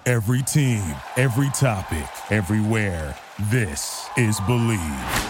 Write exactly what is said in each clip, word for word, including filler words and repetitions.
Every team, every topic, everywhere. This is Believe.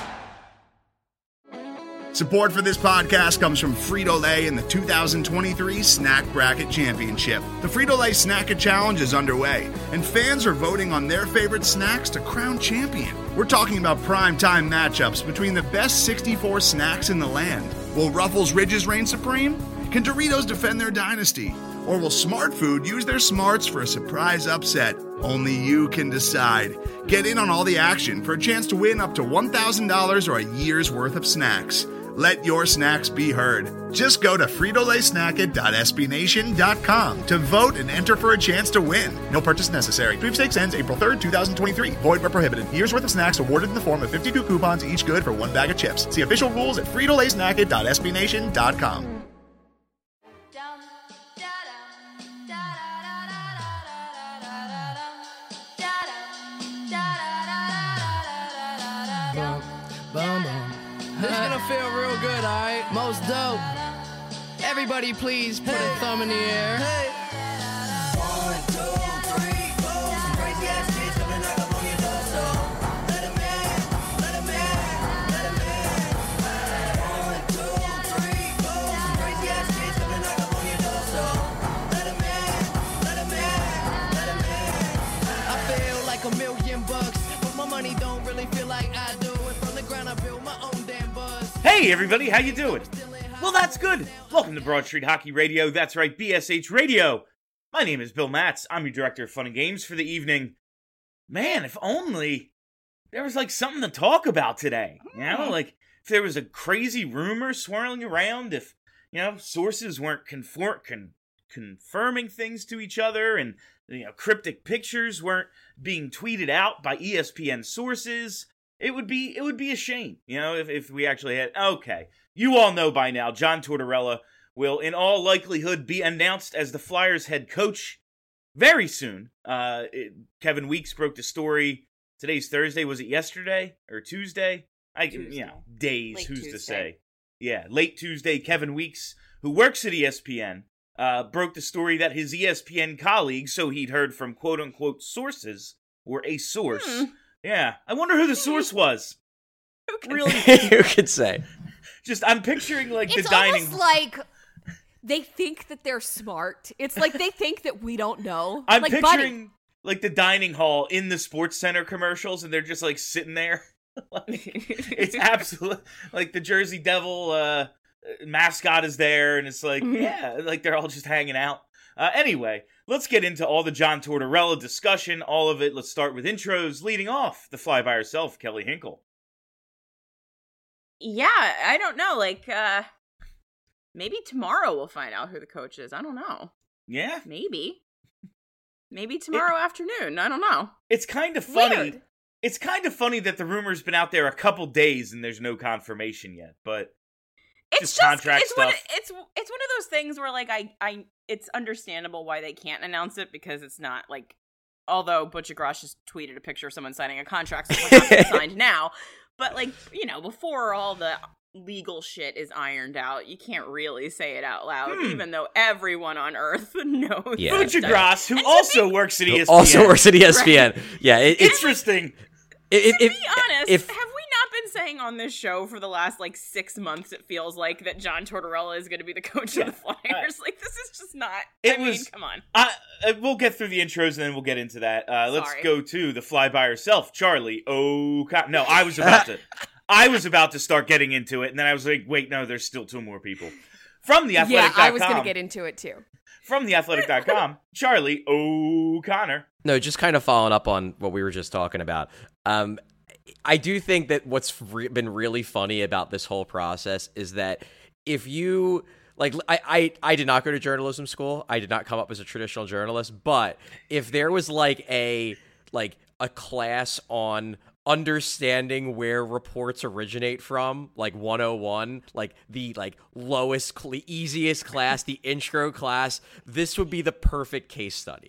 Support for this podcast comes from Frito-Lay and the two thousand twenty-three Snack Bracket Championship. The Frito-Lay Snack-It Challenge is underway, and fans are voting on their favorite snacks to crown champion. We're talking about prime-time matchups between the best sixty-four snacks in the land. Will Ruffles Ridges reign supreme? Can Doritos defend their dynasty? Or will Smart Food use their smarts for a surprise upset? Only you can decide. Get in on all the action for a chance to win up to one thousand dollars or a year's worth of snacks. Let your snacks be heard. Just go to Frito Lay Snack It dot S B Nation dot com to vote and enter for a chance to win. No purchase necessary. Sweepstakes ends April third, twenty twenty-three. Void where prohibited. Year's worth of snacks awarded in the form of fifty-two coupons, each good for one bag of chips. See official rules at Frito Lay Snack It dot S B Nation dot com. This is gonna feel real good, alright? Most dope. Everybody please put hey. a thumb in the air. Hey. One, two, three, four. Some crazy ass kids coming knock up on your door, so let 'em in, let 'em in, let 'em in. One, two, three, four. Some crazy ass kids coming knock up on your door, so let 'em in, let 'em in, let 'em in. I feel like a million bucks, but my money don't really feel like I do. And from the ground I build my own damn buzz. Hey everybody, how you doing? Well, that's good. Welcome to Broad Street Hockey Radio. That's right, B S H Radio. My name is Bill Matz. I'm your director of fun and games for the evening. Man, if only there was like something to talk about today. You know, like if there was a crazy rumor swirling around, if, you know, sources weren't conform- con- confirming things to each other, and, you know, cryptic pictures weren't being tweeted out by E S P N sources. It would be it would be a shame, you know, if, if we actually had... Okay, you all know by now, John Tortorella will, in all likelihood, be announced as the Flyers head coach very soon. Uh, it, Kevin Weeks broke the story. Today's Thursday. Was it yesterday or Tuesday? I Tuesday. You know, days, late who's Tuesday. to say? Yeah, late Tuesday, Kevin Weeks, who works at E S P N, uh, broke the story that his E S P N colleague, so he'd heard from quote-unquote sources, or a source... Hmm. Yeah, I wonder who the source was. Who can really? Who could say? Just, I'm picturing, like, it's the dining... It's almost like they think that they're smart. It's like they think that we don't know. I'm like, picturing, buddy. like, the dining hall in the Sports Center commercials, and they're just, like, sitting there. Like, it's absolute... Like, the Jersey Devil uh, mascot is there, and it's like, yeah, like, they're all just hanging out. Uh, anyway, let's get into all the John Tortorella discussion, all of it. Let's start with intros, leading off the fly by herself, Kelly Hinkle. Yeah, I don't know, like, uh, maybe tomorrow we'll find out who the coach is. I don't know. Yeah? Maybe. Maybe tomorrow it, afternoon. I don't know. It's kind of funny. Weird. It's kind of funny that the rumor's been out there a couple days and there's no confirmation yet, but... It's just, just contract it's stuff. One, it's it's one of those things where, like, I, I it's understandable why they can't announce it, because it's not like, although Butch Grosh just tweeted a picture of someone signing a contract, so it's not signed now, but, like, you know, before all the legal shit is ironed out, you can't really say it out loud, hmm. even though everyone on Earth knows. Yeah. Butch Grosh, who also be, works at E S P N, also works at E S P N. Right? Yeah, it, it's interesting. It, to it, be honest, if, have we not been saying on this show for the last, like, six months, it feels like, that John Tortorella is going to be the coach yeah. of the Flyers? Right. Like, this is just not, it I mean, was, come on. I, uh, we'll get through the intros and then we'll get into that. Uh, let's go to the fly by herself, Charlie O'Connor. No, I was about to, I was about to start getting into it, and then I was like, wait, no, there's still two more people. From the athletic dot com. Yeah, I was going to get into it, too. From the athletic dot com, Charlie O'Connor. No, just kind of following up on what we were just talking about. Um, I do think that what's re- been really funny about this whole process is that if you, like, I, I, I did not go to journalism school. I did not come up as a traditional journalist. But if there was, like, a, like, a class on understanding where reports originate from, like one oh one, like the, like, lowest, cl- easiest class, the intro class, this would be the perfect case study.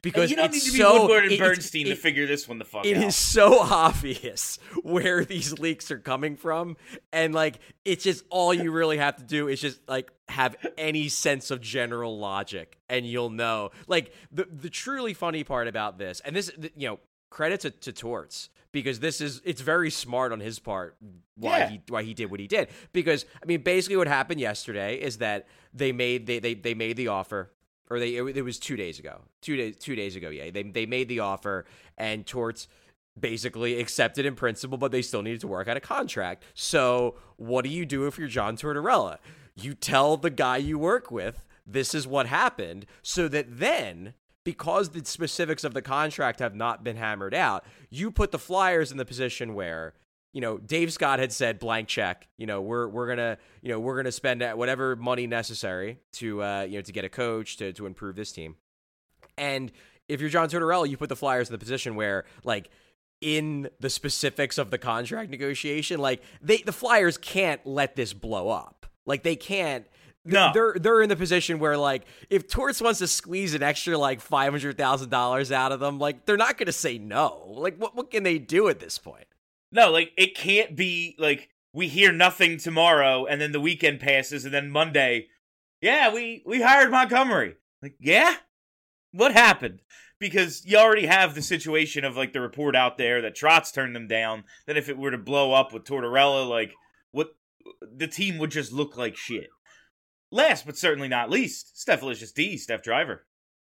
because and you don't it's need to be so, Woodward and it- Bernstein it- to figure this one the fuck It out. is so obvious where these leaks are coming from, and like it's just all you really have to do is just like have any sense of general logic, and you'll know. Like the the truly funny part about this, and this, you know, credit to, to Torts, because this is it's very smart on his part why Yeah. he why he did what he did. Because I mean, basically what happened yesterday is that they made they they, they made the offer. Or they it, it was two days ago. Two days two days ago, yeah. They they made the offer, and Torts basically accepted in principle, but they still needed to work out a contract. So what do you do if you're John Tortorella? You tell the guy you work with this is what happened, so that then, because the specifics of the contract have not been hammered out, you put the Flyers in the position where, you know, Dave Scott had said blank check. You know, we're we're gonna you know we're gonna spend whatever money necessary to uh, you know to get a coach to to improve this team. And if you're John Tortorella, you put the Flyers in the position where, like, in the specifics of the contract negotiation, like they the Flyers can't let this blow up. Like they can't. No. They're they're in the position where, like, if Torts wants to squeeze an extra like five hundred thousand dollars out of them, like they're not gonna say no. Like what what can they do at this point? No, like, it can't be, like, we hear nothing tomorrow, and then the weekend passes, and then Monday, yeah, we, we hired Montgomery. Like, yeah? What happened? Because you already have the situation of, like, the report out there that Trotz turned them down, that if it were to blow up with Tortorella, like, what, the team would just look like shit. Last, but certainly not least, Steph Licious D, Steph Driver.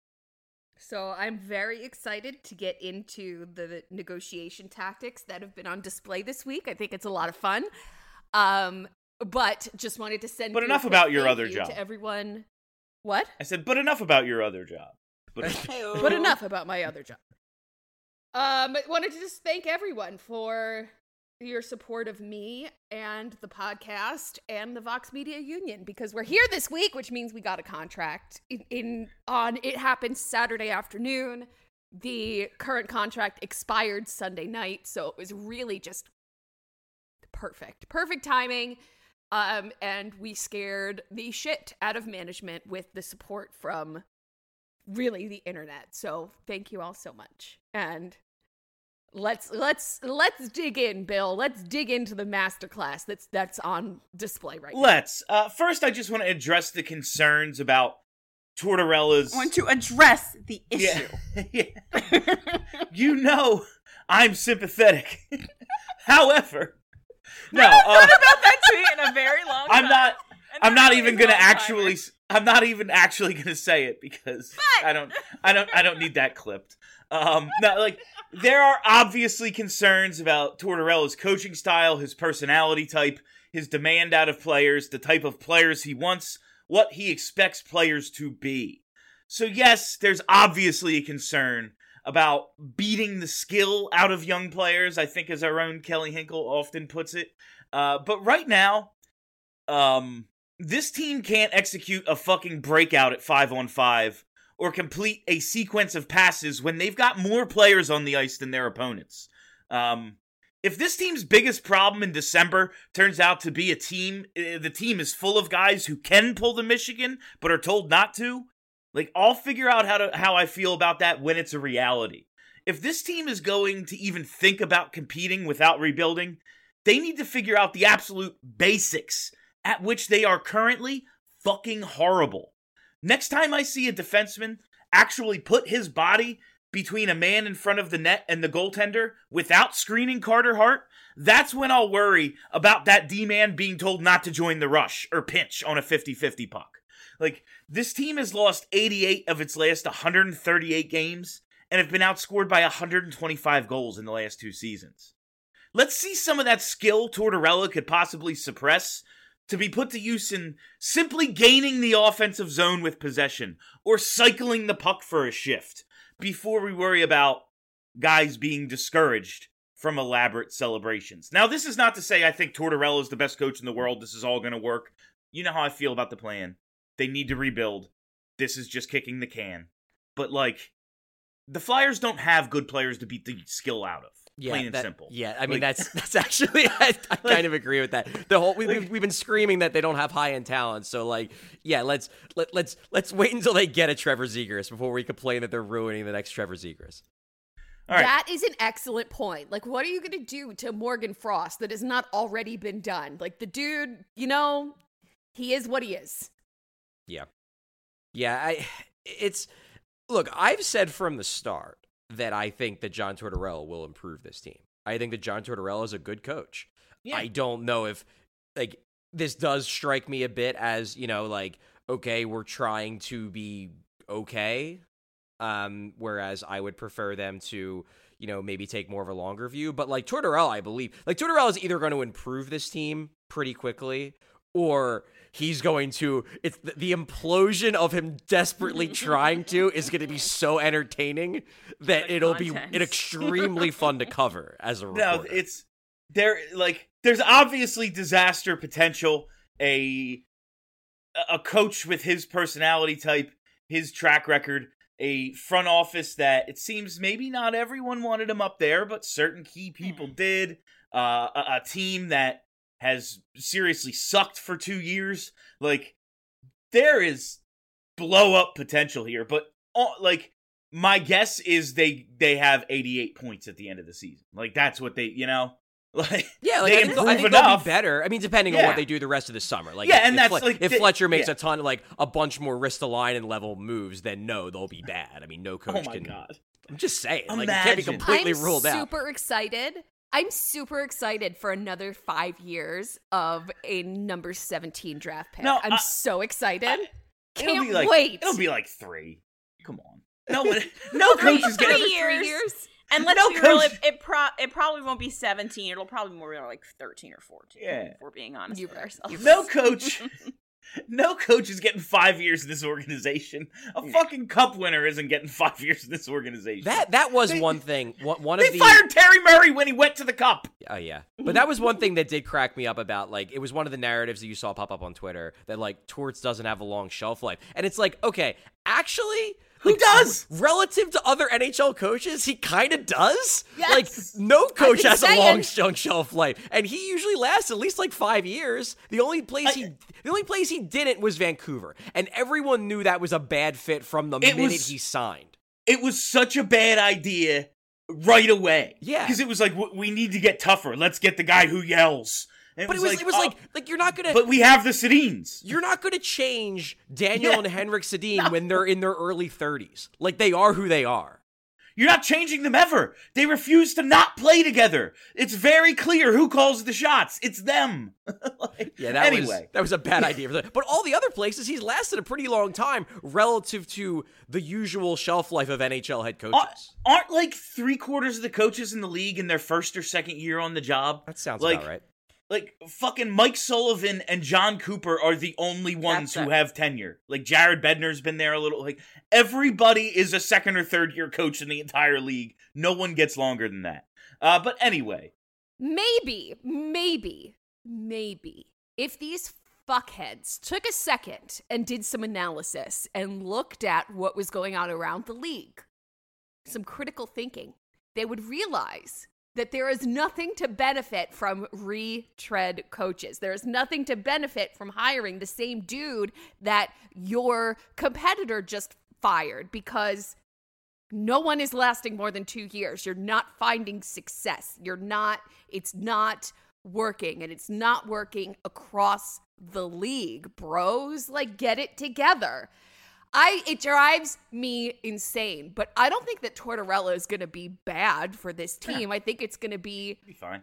So I'm very excited to get into the negotiation tactics that have been on display this week. I think it's a lot of fun. Um, but just wanted to send. But you a enough quick about your thank other you job. to everyone. What? I said, but enough about your other job. But But enough about my other job. Um, I wanted to just thank everyone for your support of me and the podcast and the Vox Media Union, because we're here this week, which means we got a contract in, in on it happened Saturday afternoon. The current contract expired Sunday night, so it was really just perfect. Perfect timing. Um, and we scared the shit out of management with the support from really the internet. So thank you all so much. And Let's let's let's dig in, Bill. Let's dig into the masterclass that's that's on display right now. let's. Uh, first, I just want to address the concerns about Tortorella's... I want to address the issue. Yeah. yeah. You know I'm sympathetic. However, no, I uh, thought about that tweet in a very long time. I'm not. And I'm that not really even is gonna a long-timer. actually. I'm not even actually gonna say it because But- I don't. I don't. I don't need that clipped. Um, no, like there are obviously concerns about Tortorella's coaching style, his personality type, his demand out of players, the type of players he wants, what he expects players to be. So yes, there's obviously a concern about beating the skill out of young players, I think, as our own Kelly Hinkle often puts it. Uh, but right now, um, this team can't execute a fucking breakout at five on five or complete a sequence of passes when they've got more players on the ice than their opponents. Um, if this team's biggest problem in December turns out to be a team, uh, the team is full of guys who can pull the Michigan but are told not to, like, I'll figure out how to how I feel about that when it's a reality. If this team is going to even think about competing without rebuilding, they need to figure out the absolute basics, at which they are currently fucking horrible. Next time I see a defenseman actually put his body between a man in front of the net and the goaltender without screening Carter Hart, that's when I'll worry about that D-man being told not to join the rush or pinch on a fifty-fifty puck. Like, this team has lost eighty-eight of its last one hundred thirty-eight games and have been outscored by one hundred twenty-five goals in the last two seasons. Let's see some of that skill Tortorella could possibly suppress to be put to use in simply gaining the offensive zone with possession or cycling the puck for a shift before we worry about guys being discouraged from elaborate celebrations. Now, this is not to say I think Tortorella is the best coach in the world. This is all going to work. You know how I feel about the plan. They need to rebuild. This is just kicking the can. But, like, the Flyers don't have good players to beat the skill out of. Yeah, Plain and that, simple. Yeah, I mean Like- that's that's actually I, I kind of agree with that. The whole we, we've, we've been screaming that they don't have high end talent, so like yeah, let's let, let's let's wait until they get a Trevor Zegras before we complain that they're ruining the next Trevor Zegras. All right. That is an excellent point. Like, what are you going to do to Morgan Frost that has not already been done? Like, the dude, you know, he is what he is. Yeah, yeah. I it's look. I've said from the start that I think that John Tortorella will improve this team. I think that John Tortorella is a good coach. Yeah. I don't know if, like, this does strike me a bit as, you know, like, okay, we're trying to be okay, um, whereas I would prefer them to, you know, maybe take more of a longer view. But, like, Tortorella, I believe, like, Tortorella is either going to improve this team pretty quickly, or he's going to, it's the, the implosion of him desperately trying to is going to be so entertaining that The it'll content. be extremely fun to cover as a reporter. No, it's there. Like, there's obviously disaster potential. A a coach with his personality type, his track record, a front office that it seems maybe not everyone wanted him up there, but certain key people did. Uh, a, a team that has seriously sucked for two years. Like, there is blow up potential here, but uh, like, my guess is they they have eighty-eight points at the end of the season. Like, that's what they, you know, like, Yeah, like they I think, improve I think enough. they'll be better. I mean, depending on Yeah. what they do the rest of the summer. Like, Yeah, if, and if that's, Fle- like, if the- Fletcher makes yeah. a ton of like a bunch more Ristolainen level moves, then no, they'll be bad. I mean, no coach Oh my can. god. I'm just saying, like, it can't be Imagine. completely I'm ruled out. super excited. I'm super excited for another five years of a number seventeen draft pick. No, I'm I- so excited. I- It'll Can't be like, wait. It'll be like three. Come on. No, one- no coach is Three getting. years. Three years. And let's No be real, coach- it, it, pro- it probably won't be seventeen. It'll probably be more like thirteen or fourteen. Yeah. If we're being honest You with better- ourselves. No coach. No coach is getting five years in this organization. A fucking cup winner isn't getting five years in this organization. That that was They- one thing. One, one they of the fired Terry Murray when he went to the cup. Oh yeah, but that was one thing that did crack me up about, like, it was one of the narratives that you saw pop up on Twitter that, like, Torts doesn't have a long shelf life, and it's like, okay, actually, Who like, does? relative to other N H L coaches, he kind of does. Yes. Like, no coach been has a saying. long sh- shelf life, and he usually lasts at least like five years. The only place he, the only place he didn't was Vancouver, and everyone knew that was a bad fit from the It minute was- he signed. It was such a bad idea right away. Yeah. Because it was like, w- we need to get tougher. Let's get the guy who yells. And But it was, it was uh, like, like you're not gonna. But we have the Sedins. You're not going to change Daniel Yeah. and Henrik Sedin when they're in their early thirties. Like, they are who they are. You're not changing them ever. They refuse to not play together. It's very clear who calls the shots. It's them. Like, Yeah, that anyway. was that was a bad idea for that. But all the other places, he's lasted a pretty long time relative to the usual shelf life of N H L head coaches. Aren't, aren't like three quarters of the coaches in the league in their first or second year on the job? That sounds like, about right. Like, fucking Mike Sullivan and John Cooper are the only ones That's who it. have tenure. Like, Jared Bednar's been there a little. Like, everybody is a second or third year coach in the entire league. No one gets longer than that. Uh, but anyway. Maybe, maybe, maybe if these fuckheads took a second and did some analysis and looked at what was going on around the league, some critical thinking, they would realize that there is nothing to benefit from retread coaches. There is nothing to benefit from hiring the same dude that your competitor just fired, because no one is lasting more than two years. You're not finding success. You're not, it's not working, and it's not working across the league, bros. Like, get it together. I it drives me insane, but I don't think that Tortorella is going to be bad for this team. I think it's going to be Be fine.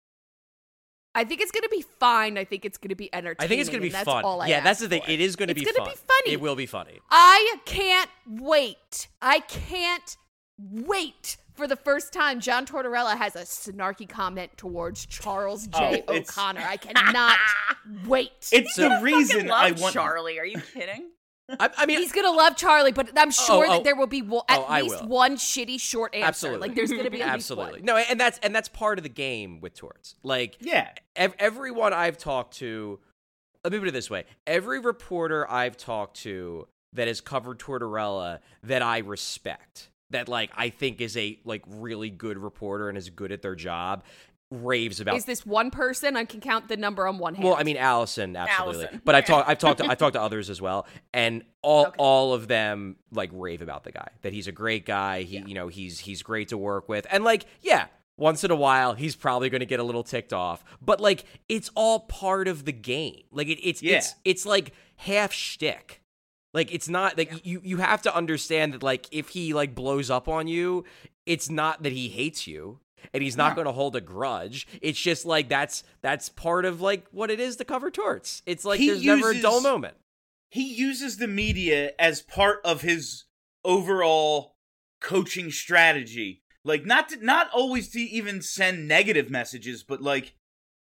I think it's going to be fine. I think it's going to be entertaining. I think it's going to be and that's fun. all I yeah, that's ask the thing. for. It is going to It's be gonna fun. be funny. It will be funny. I can't wait. I can't wait for the first time John Tortorella has a snarky comment towards Charles J. Oh, it's- O'Connor. I cannot wait. It's the Fucking reason love I want. Charlie. Are you kidding? I, I mean, He's gonna love Charlie, but I'm sure oh. that there will be wo- at Oh, I least will. one shitty short answer. Absolutely. Like, there's gonna be at least absolutely one. no, and that's and that's part of the game with Torts. Like, Yeah. ev- everyone I've talked to, let me put it this way: every reporter I've talked to that has covered Tortorella that I respect that like I think is a like really good reporter and is good at their job, raves about. Is this one person? I can count the number on one hand. Well, I mean, Allison, absolutely. Allison. But I've talked, I've talked, to, I've talked to others as well, and all, Okay. all of them like rave about the guy. That he's a great guy. He, Yeah. you know, he's he's great to work with, and like, yeah, once in a while, he's probably going to get a little ticked off, but like, it's all part of the game. Like, it, it's Yeah. it's it's like half shtick. Like, it's not like Yeah. you you have to understand that like if he like blows up on you, it's not that he hates you. And he's not No. going to hold a grudge. It's just like that's that's part of like what it is to cover torts. It's like He there's never a uses- dull moment. He uses the media as part of his overall coaching strategy. Like, not to, not always to even send negative messages, but like,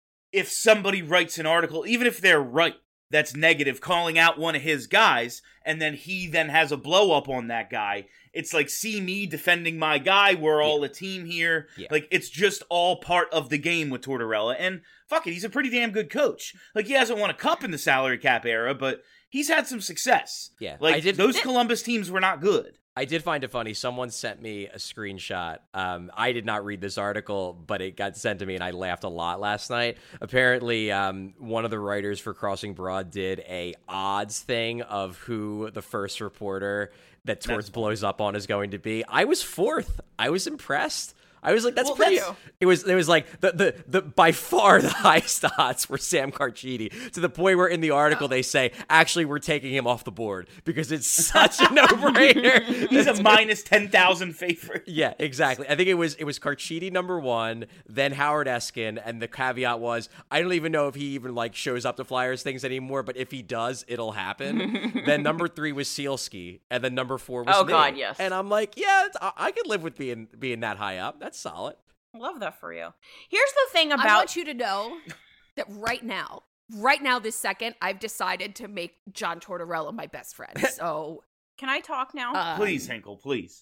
if somebody writes an article, even if they're right, that's negative, calling out one of his guys, and then he then has a blow up on that guy. It's like, see me defending my guy. We're all a team here. Yeah. Like, it's just all part of the game with Tortorella. And fuck it, he's a pretty damn good coach. Like, he hasn't won a cup in the salary cap era, but he's had some success. Yeah, Like, I did- those Columbus teams were not good. I did find it funny. Someone sent me a screenshot. Um, I did not read this article, but it got sent to me, and I laughed a lot last night. Apparently, um, one of the writers for Crossing Broad did a odds thing of who the first reporter that Torts blows up on is going to be. I was fourth. I was impressed. I was like, that's Well, pretty. that's- It was. It was like the, the the by far the highest odds were Sam Carchidi, to the point where in the article they say actually we're taking him off the board because it's such a no brainer. He's a minus ten thousand favorite. Yeah, exactly. I think it was it was Carchidi number one, then Howard Eskin, and the caveat was I don't even know if he even like shows up to Flyers things anymore, but if he does, it'll happen. Then number three was Sealski, and then number four was Oh, me. God, yes. And I'm like, yeah, it's, I, I could live with being being that high up. That's solid. Love that for you. Here's the thing I about want you to know that right now, right now, this second, I've decided to make John Tortorella my best friend. So, Can I talk now? um, Please, Hinkle, please.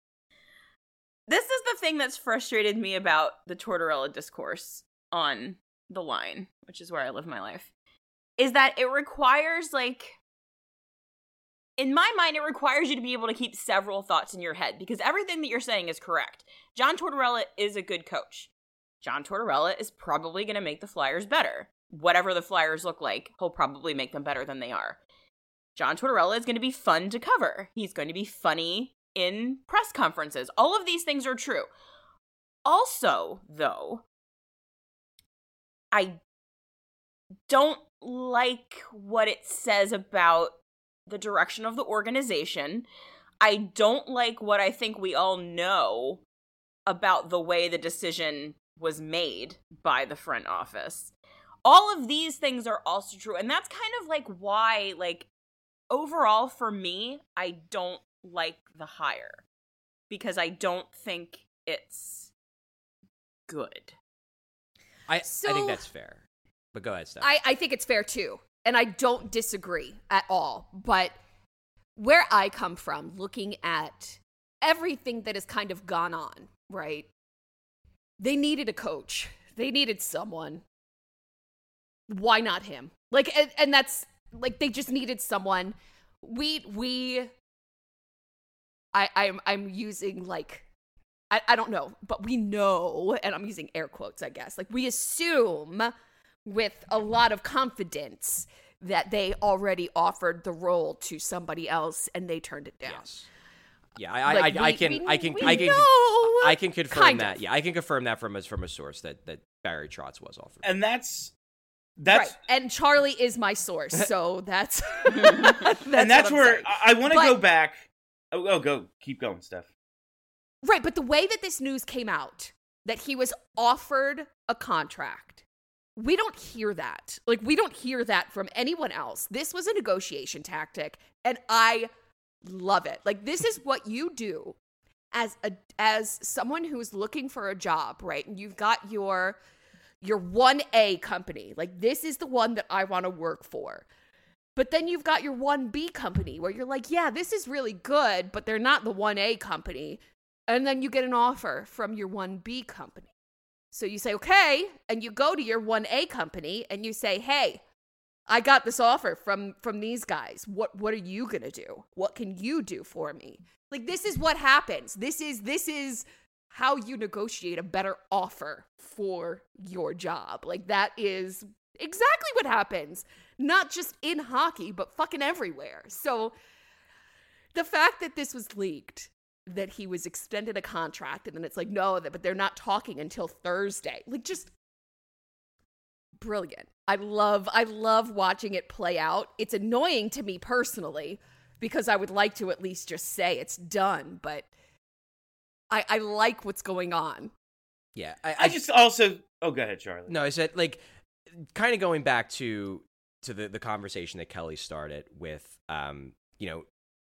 This is the thing that's frustrated me about the Tortorella discourse on the line, which is where I live my life, is that it requires, like, in my mind, it requires you to be able to keep several thoughts in your head, because everything that you're saying is correct. John Tortorella is a good coach. John Tortorella is probably going to make the Flyers better. Whatever the Flyers look like, he'll probably make them better than they are. John Tortorella is going to be fun to cover. He's going to be funny in press conferences. All of these things are true. Also, though, I don't like what it says about the direction of the organization. I don't like what I think we all know about the way the decision was made by the front office. All of these things are also true, and that's kind of like why, like, overall for me, I don't like the hire, because I don't think it's good. I I So- think that's fair. But go ahead, Steph. I, I think it's fair too. And I don't disagree at all. But where I come from, looking at everything that has kind of gone on, right? They needed a coach. They needed someone. Why not him? Like, and, and that's like they just needed someone. We we I I'm I'm using like I, I don't know, but we know, and I'm using air quotes, I guess. Like, we assume with a lot of confidence that they already offered the role to somebody else and they turned it down. Yes. Yeah, I, Like, I, I we- can, we- I can, we I can, know, I can confirm kind that. of. Yeah, I can confirm that from a from a source that that Barry Trotz was offered. And that's that's right. And Charlie is my source, so that's, that's and that's what I'm where saying. I, I want to But- go back. Oh, oh, go, keep going, Steph. Right, but the way that this news came out, that he was offered a contract, we don't hear that. Like, we don't hear that from anyone else. This was a negotiation tactic, and I love it. Like, this is what you do as a as someone who's looking for a job, right? And you've got your your one A company. Like, this is the one that I want to work for. But then you've got your one B company where you're like, yeah, this is really good, but they're not the one A company. And then you get an offer from your one B company. So you say, okay, and you go to your one A company and you say, hey, I got this offer from from these guys. What what are you going to do? What can you do for me? Like, this is what happens. This is this is how you negotiate a better offer for your job. Like, that is exactly what happens. Not just in hockey, but fucking everywhere. So the fact that this was leaked, that he was extended a contract, and then it's like, no, but they're not talking until Thursday. Like, just brilliant. I love, I love watching it play out. It's annoying to me personally because I would like to at least just say it's done, but I, I like what's going on. Yeah. I, I, I just also, oh, go ahead, Charlie. No, I said, like, kind of going back to to the, the conversation that Kelly started with, um, you know,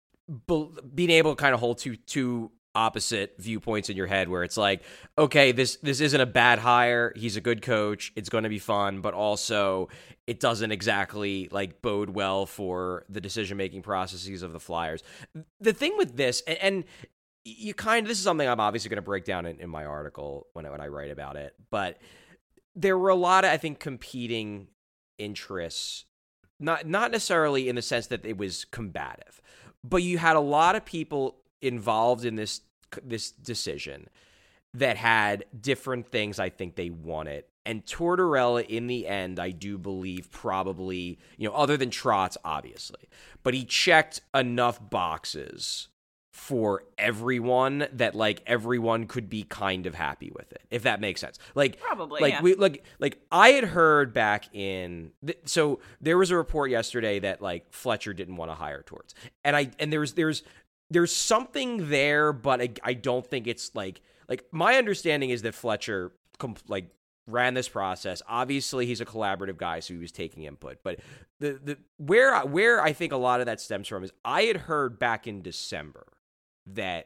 be, being able to kind of hold two two opposite viewpoints in your head, where it's like, okay, this this isn't a bad hire. He's a good coach. It's going to be fun, but also it doesn't exactly like bode well for the decision making processes of the Flyers. The thing with this, and, and you kind of, this is something I'm obviously going to break down in, in my article when I, when I write about it, but there were a lot of, I think, competing interests, not not necessarily in the sense that it was combative, but you had a lot of people involved in this this decision that had different things I think they wanted. And Tortorella, in the end, I do believe probably, you know, other than Trotz, obviously, but he checked enough boxes for everyone that like everyone could be kind of happy with it, if that makes sense. Like Probably, like yeah. we like like I had heard back in th- so there was a report yesterday that like Fletcher didn't want to hire Torts, and I and there's there's there's something there, but I, I don't think it's like like my understanding is that Fletcher comp- like ran this process. Obviously, he's a collaborative guy, so he was taking input. But the the where where I think a lot of that stems from is I had heard back in December that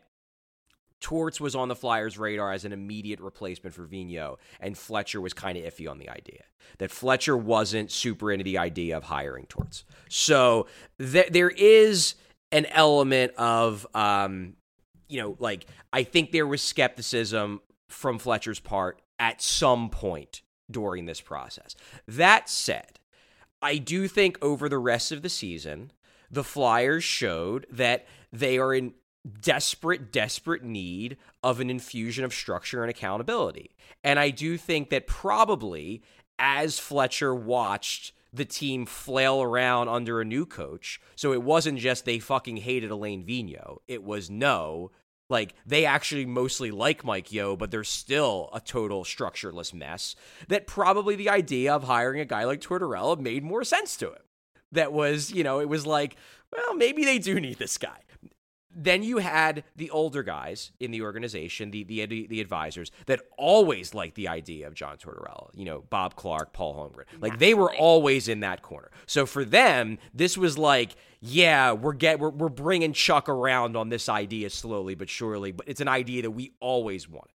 Torts was on the Flyers' radar as an immediate replacement for Vigneault, and Fletcher was kind of iffy on the idea. That Fletcher wasn't super into the idea of hiring Torts. So th- there is an element of, um, you know, like, I think there was skepticism from Fletcher's part at some point during this process. That said, I do think over the rest of the season, the Flyers showed that they are in desperate, desperate need of an infusion of structure and accountability. And I do think that probably as Fletcher watched the team flail around under a new coach, so it wasn't just they fucking hated Alain Vigneault. It was no, like they actually mostly like Mike Yeo, but they're still a total structureless mess, that probably the idea of hiring a guy like Tortorella made more sense to him. That was, you know, it was like, well, maybe they do need this guy. Then you had the older guys in the organization, the the the advisors, that always liked the idea of John Tortorella. You know, Bob Clark, Paul Holmgren. Like, they were always in that corner. So for them, this was like, yeah, we're get we're, we're bringing Chuck around on this idea slowly but surely, but it's an idea that we always wanted.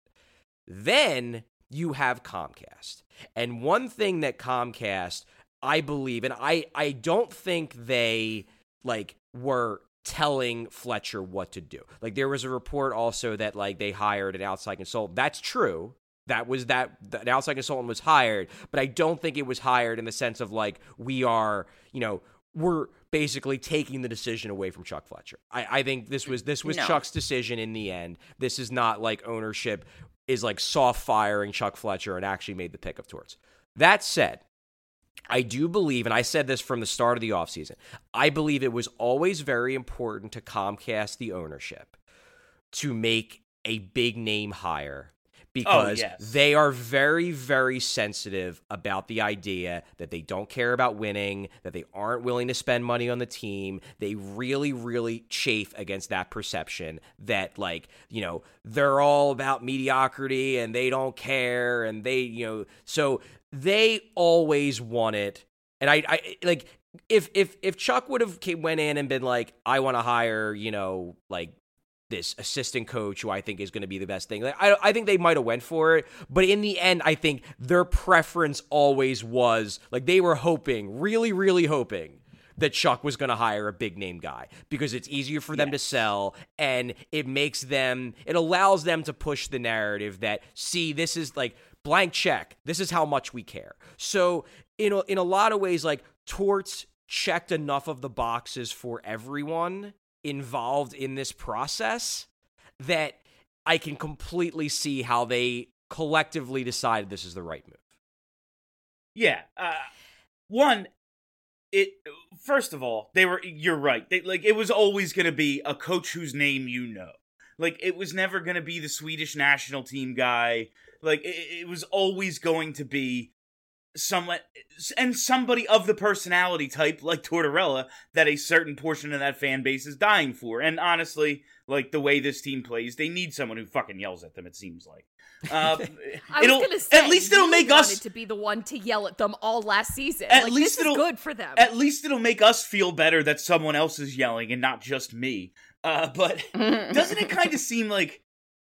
Then you have Comcast. And one thing that Comcast, I believe, and I, I don't think they, like, were telling Fletcher what to do. Like, there was a report also that, like, they hired an outside consultant. That's true. That was that, an outside consultant was hired, but I don't think it was hired in the sense of, like, we are, you know, we're basically taking the decision away from Chuck Fletcher. I, I think this was, this was No. Chuck's decision in the end. This is not like ownership is like soft firing Chuck Fletcher and actually made the pick of Torts. That said, I do believe, and I said this from the start of the offseason, I believe it was always very important to Comcast, the ownership, to make a big name hire, because Oh, yes. they are very, very sensitive about the idea that they don't care about winning, that they aren't willing to spend money on the team. They really, really chafe against that perception that, like, you know, they're all about mediocrity and they don't care, and they, you know, so they always want it. And I, I like, if if if Chuck would have came, went in and been like, I want to hire, you know, like, this assistant coach who I think is going to be the best thing. Like, I, I think they might have went for it, but in the end, I think their preference always was, like, they were hoping, really, really hoping that Chuck was going to hire a big name guy, because it's easier for them to sell, and it makes them, it allows them to push the narrative that, see, this is like blank check. This is how much we care. So in a, in a lot of ways, like, Torts checked enough of the boxes for everyone involved in this process that I can completely see how they collectively decided this is the right move. Yeah. Uh, one, it first of all, they were. You're right. They, like it was always going to be a coach whose name you know. Like it was never going to be the Swedish national team guy. Like it, it was always going to be someone and somebody of the personality type like Tortorella that a certain portion of that fan base is dying for. And honestly, like the way this team plays, they need someone who fucking yells at them. It seems like. Uh, I was gonna say, at least it'll you make wanted us to be the one to yell at them all last season. At like, least this it'll is good for them. At least it'll make us feel better that someone else is yelling and not just me. Uh, but doesn't it kind of seem like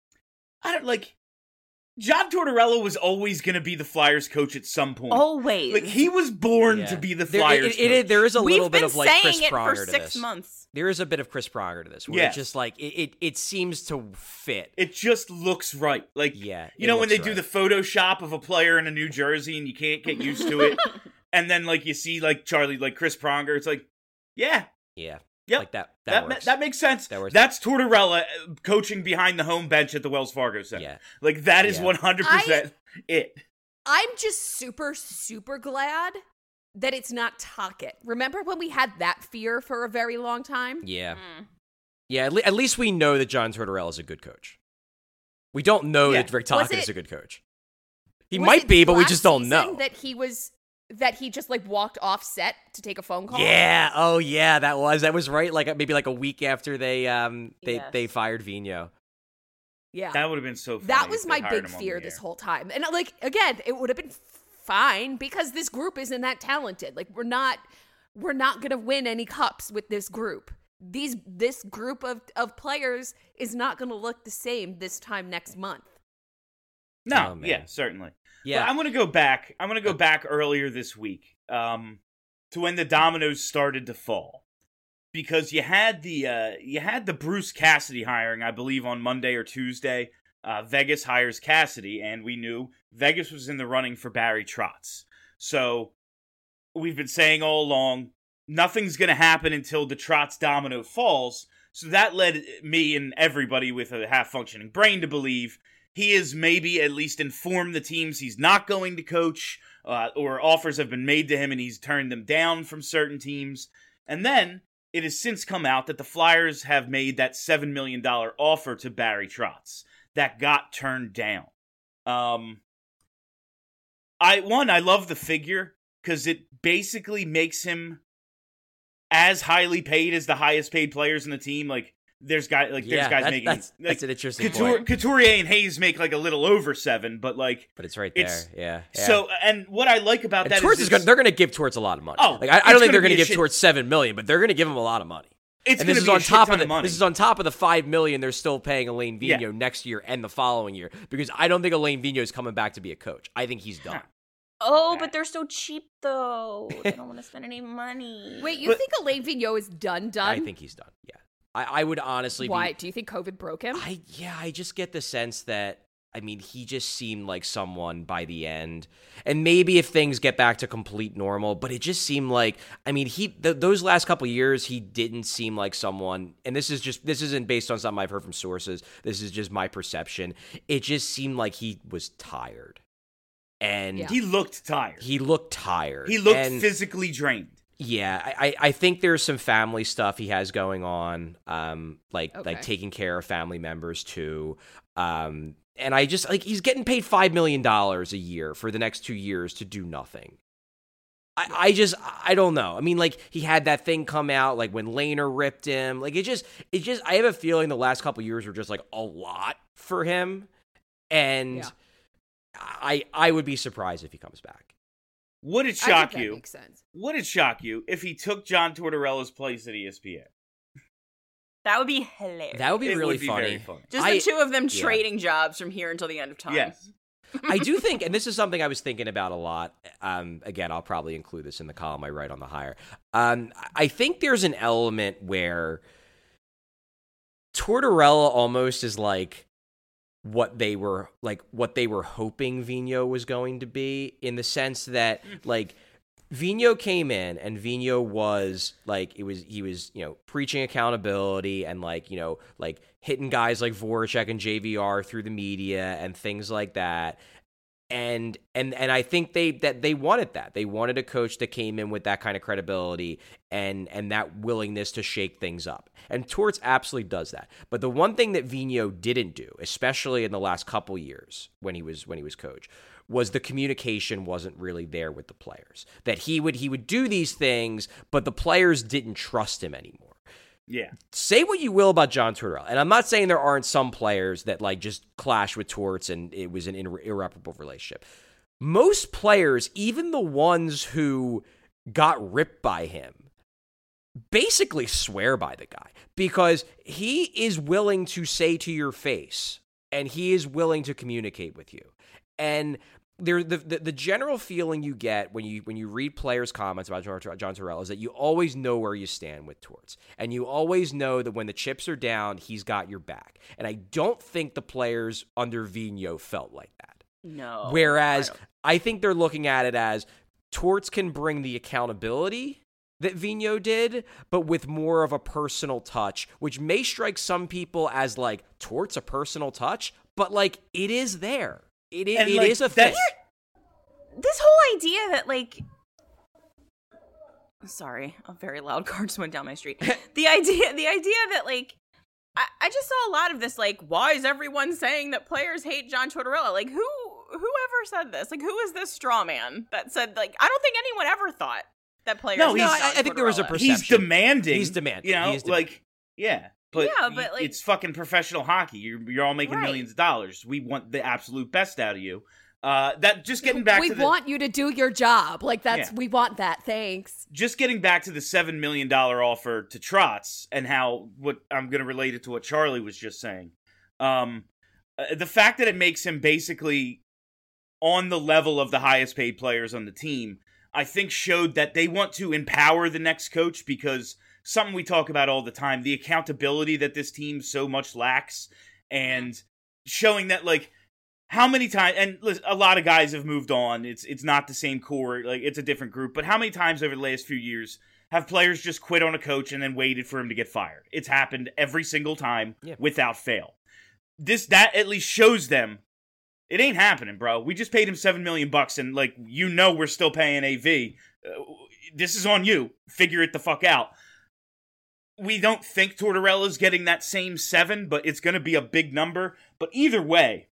I don't like John Tortorella was always going to be the Flyers coach at some point. Always. Like he was born Yeah. to be the There, Flyers it, it, it, coach. there is a We've little bit been of like saying Chris it Pronger for to six this. months. There is a bit of Chris Pronger to this, where Yes. it's just like it, it, it seems to fit. It just looks right. Like, Yeah, you it know when they looks do right. the Photoshop of a player in a New Jersey and you can't get used to it, and then like you see like Charlie, like Chris Pronger, it's like, yeah, Yeah, yep, like that. That, that ma- works. that makes sense. That works. That's Tortorella uh, coaching behind the home bench at the Wells Fargo Center. Yeah. Like that is Yeah. one hundred percent it. I'm just super, super glad that it's not Tocchet. Remember when we had that fear for a very long time? Yeah, Mm. yeah. At, le- at least we know that John Tortorella is a good coach. We don't know Yeah. that Rick Was Tocchet is it- a good coach. He Was might it be, but we last just don't season know. that he was that he just like walked off set to take a phone call. Yeah. Oh, yeah. That was that was right. Like maybe like a week after they um they Yes. they fired Vigneault. yeah. That would have been so funny. That if was they my hired big him on fear the this air. whole time. And like again, it would have been fine because this group isn't that talented. Like we're not we're not going to win any cups with this group. These this group of of players is not going to look the same this time next month. No, Oh, man. yeah, certainly. Yeah. But I'm gonna go back. I'm gonna go back earlier this week, um, to when the dominoes started to fall, because you had the uh, you had the Bruce Cassidy hiring, I believe, on Monday or Tuesday. Uh, Vegas hires Cassidy, and we knew Vegas was in the running for Barry Trotz. So we've been saying all along, nothing's gonna happen until the Trotz domino falls. So that led me and everybody with a half-functioning brain to believe he is maybe at least informed the teams he's not going to coach, uh, or offers have been made to him and he's turned them down from certain teams. And then it has since come out that the Flyers have made that seven million dollars offer to Barry Trotz that got turned down. Um, I one, I love the figure because it basically makes him as highly paid as the highest paid players in the team. Like there's guys like yeah, there's guys that's, making that's, like, that's an interesting Couture, point. Couturier and Hayes make like a little over seven, but like But it's right there. it's- yeah, yeah. so. And what I like about and that Torts is is going it's- they're going to give Torts a lot of money. Oh, like I, I it's don't think gonna they're be going to a give shit- Torts seven million, but they're going to give him a lot of money. it's and this gonna is be a on shit top ton of the money. this is on top of the five million they're still paying Alain Yeah. Vigneault next year and the following year, because I don't think Alain Vigneault is coming back to be a coach. I think he's done. Oh, Okay. but they're so cheap though. They don't want to spend any money. Wait, you But- think Alain Vigneault is done done? I think he's done. Yeah, I, I would honestly. Why? Be, Do you think COVID broke him? I yeah, I just get the sense that I mean he just seemed like someone by the end, and maybe if things get back to complete normal, but it just seemed like I mean he th- those last couple years he didn't seem like someone, and this is just this isn't based on something I've heard from sources. This is just my perception. It just seemed like he was tired, and Yeah. He looked tired. he looked tired. He looked and, physically drained. Yeah, I, I I think there's some family stuff he has going on, um, like Okay. like taking care of family members too, um, and I just like he's getting paid five million dollars a year for the next two years to do nothing. I, I just I don't know. I mean, like he had that thing come out like when Lehner ripped him. Like it just it just I have a feeling the last couple years were just like a lot for him, and Yeah. I I would be surprised if he comes back. Would it I shock think that you? makes sense. Would it shock you if he took John Tortorella's place at E S P N? That would be hilarious. That would be It really would be funny. very funny. Just I- the two of them yeah. trading jobs from here until the end of time. Yes. I do think, and this is something I was thinking about a lot. Um, again, I'll probably include this in the column I write on the hire. Um, I think there's an element where Tortorella almost is like what they were like what they were hoping Vigneault was going to be, in the sense that like Vigneault came in, and Vigneault was like, it was he was you know preaching accountability and like you know like hitting guys like Voracek and J V R through the media and things like that. And and and I think they that they wanted that. They wanted a coach that came in with that kind of credibility and and that willingness to shake things up. And Torts absolutely does that. But the one thing that Vigneault didn't do, especially in the last couple years when he was when he was coach, was the communication wasn't really there with the players. That he would he would do these things, but the players didn't trust him anymore. Yeah. Say what you will about John Tortorella, and I'm not saying there aren't some players that like just clash with Torts and it was an irre- irreparable relationship. Most players, even the ones who got ripped by him, basically swear by the guy because he is willing to say to your face and he is willing to communicate with you. And there, the, the the general feeling you get when you when you read players' comments about John, John Tortorella is that you always know where you stand with Torts, and you always know that when the chips are down, he's got your back. And I don't think the players under Vigneault felt like that. No. Whereas I, I think they're looking at it as Torts can bring the accountability that Vigneault did, but with more of a personal touch, which may strike some people as like Torts a personal touch, but like it is there. It is, it like, is a thing. This whole idea that, like, sorry, a very loud car just went down my street. The idea, the idea that, like, I, I just saw a lot of this, like, why is everyone saying that players hate John Tortorella? Like, who, whoever said this? Like, who is this straw man that said, like, I don't think anyone ever thought that players. No, hate he's- John I, I think there was a Tortorella. perception. He's demanding. He's demanding. You know, He is demanding. like, yeah. But, Yeah, but, like- it's fucking professional hockey. You're, you're all making Right. millions of dollars. We want the absolute best out of you. Uh, that just getting back we to the want you to do your job. Like that's Yeah. we want that. Thanks. just getting back to the seven million dollar offer to Trotz and how what I'm going to relate it to what Charlie was just saying. Um, uh, the fact that it makes him basically on the level of the highest paid players on the team, I think showed that they want to empower the next coach because something we talk about all the time, the accountability that this team so much lacks and showing that like how many times, and listen, a lot of guys have moved on. It's it's not the same core, like it's a different group. But how many times over the last few years have players just quit on a coach and then waited for him to get fired? It's happened every single time Yeah. without fail. This that at least shows them it ain't happening, bro. We just paid him seven million bucks, and like you know we're still paying A V. Uh, this is on you. Figure it the fuck out. We don't think Tortorella's getting that same seven, but it's going to be a big number. But either way,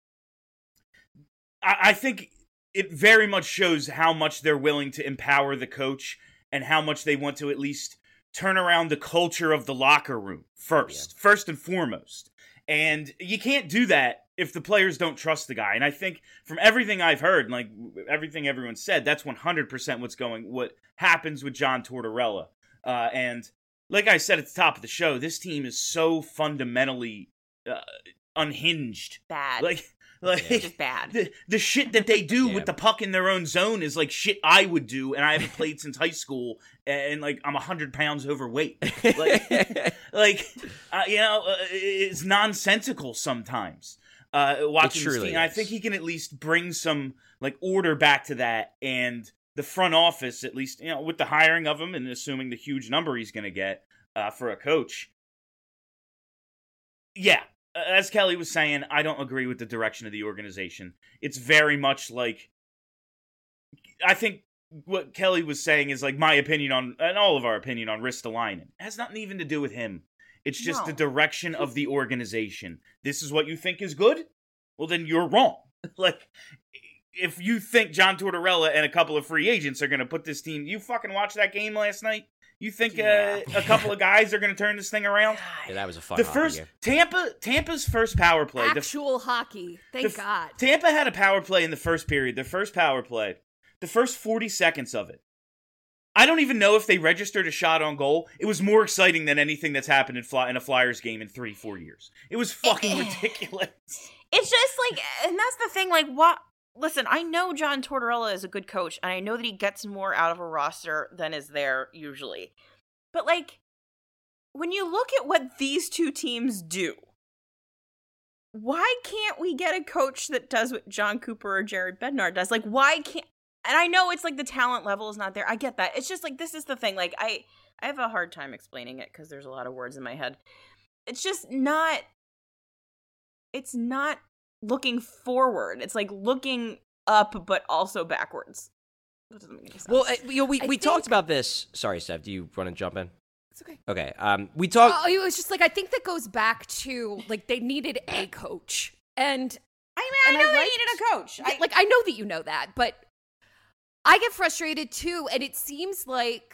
I, I think it very much shows how much they're willing to empower the coach and how much they want to at least turn around the culture of the locker room first, Yeah. first and foremost. And you can't do that if the players don't trust the guy. And I think from everything I've heard, and like everything everyone said, that's one hundred percent what's going, what happens with John Tortorella. Uh, and like I said at the top of the show, this team is so fundamentally uh, unhinged. Bad. Like, like just bad. the, the shit that they do Yeah. with the puck in their own zone is like shit I would do, and I haven't played since high school, and like I'm one hundred pounds overweight. Like, like uh, you know, uh, it's nonsensical sometimes. Uh, watching this truly team, I is. think he can at least bring some like order back to that, and the front office, at least, you know, with the hiring of him and assuming the huge number he's going to get uh, for a coach. Yeah, as Kelly was saying, I don't agree with the direction of the organization. It's very much like, I think what Kelly was saying is like my opinion on, and all of our opinion on Ristolainen. It has nothing even to do with him. It's just No. the direction of the organization. This is what you think is good? Well, then you're wrong. Like, if you think John Tortorella and a couple of free agents are going to put this team, you fucking watched that game last night? You think Yeah. uh, a couple of guys are going to turn this thing around? Yeah, that was a fun The hockey first game. Tampa, Tampa's first power play. the- Actual hockey. Thank the f- God. Tampa had a power play in the first period. The first power play, the first forty seconds of it. I don't even know if they registered a shot on goal. It was more exciting than anything that's happened in, fly, in a Flyers game in three, four years. It was fucking ridiculous. It's just like, and that's the thing, like, what? Listen, I know John Tortorella is a good coach, and I know that he gets more out of a roster than is there usually. But, like, when you look at what these two teams do, why can't we get a coach that does what John Cooper or Jared Bednar does? Like, why can't, and I know it's like the talent level is not there. I get that. It's just like, this is the thing. Like, I, I have a hard time explaining it because there's a lot of words in my head. It's just not, it's not looking forward. It's like looking up, but also backwards. That doesn't make any sense. Well, uh, you know, we, I we think- talked about this. Sorry, Steph, do you want to jump in? It's okay. Okay. Um, we talked. Oh, it was just like, I think that goes back to, like, they needed a coach. And I mean, and I know I they liked- needed a coach. I, like, I know that you know that, but I get frustrated too, and it seems like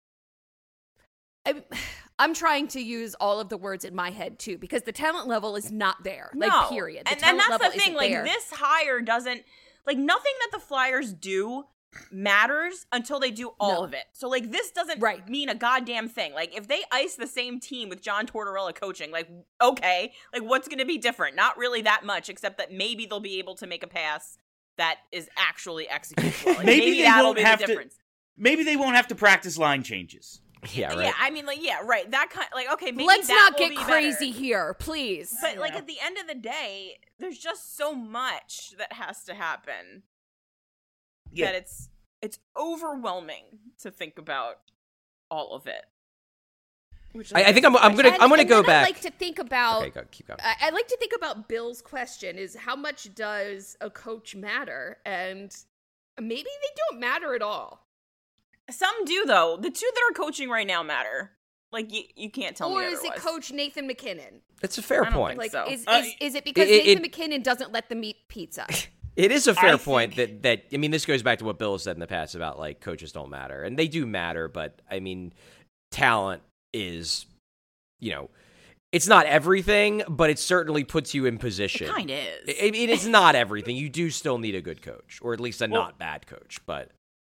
I'm, I'm trying to use all of the words in my head too, because the talent level is not there. no. Like, period. The And, and talent that's level the thing. isn't Like, there. this hire doesn't, like, nothing that the Flyers do matters until they do all No. of it. So, like, this doesn't Right. mean a goddamn thing. Like, if they ice the same team with John Tortorella coaching, like, okay, like, what's going to be different? Not really that much, except that maybe they'll be able to make a pass that is actually executable. Like, Maybe maybe they that'll won't be have the to- difference. Maybe they won't have to practice line changes. Yeah, right. Yeah, I mean, like, yeah, right. That kind, like, okay, maybe Let's that not will get be crazy better. here, please. But like at the end of the day, there's just so much that has to happen Yeah. that it's it's overwhelming to think about all of it. Which I, I think I'm. I'm gonna. And- I'm gonna and go then back. I like to think about. Okay, go, keep going. I, I like to think about Bill's question: is how much does a coach matter? And maybe they don't matter at all. Some do though. The two that are coaching right now matter. Like you, you can't tell Or me is it otherwise. Coach Nathan McKinnon? It's a fair I don't point. think Like, so. is, Uh, is is it because it- Nathan it- McKinnon doesn't let them eat pizza? It is a fair I point think- that that I mean, this goes back to what Bill has said in the past about like coaches don't matter, and they do matter, but I mean, talent is, you know, it's not everything, but it certainly puts you in position. It kind of is. I mean, it's not everything. You do still need a good coach, or at least a Well- not bad coach. But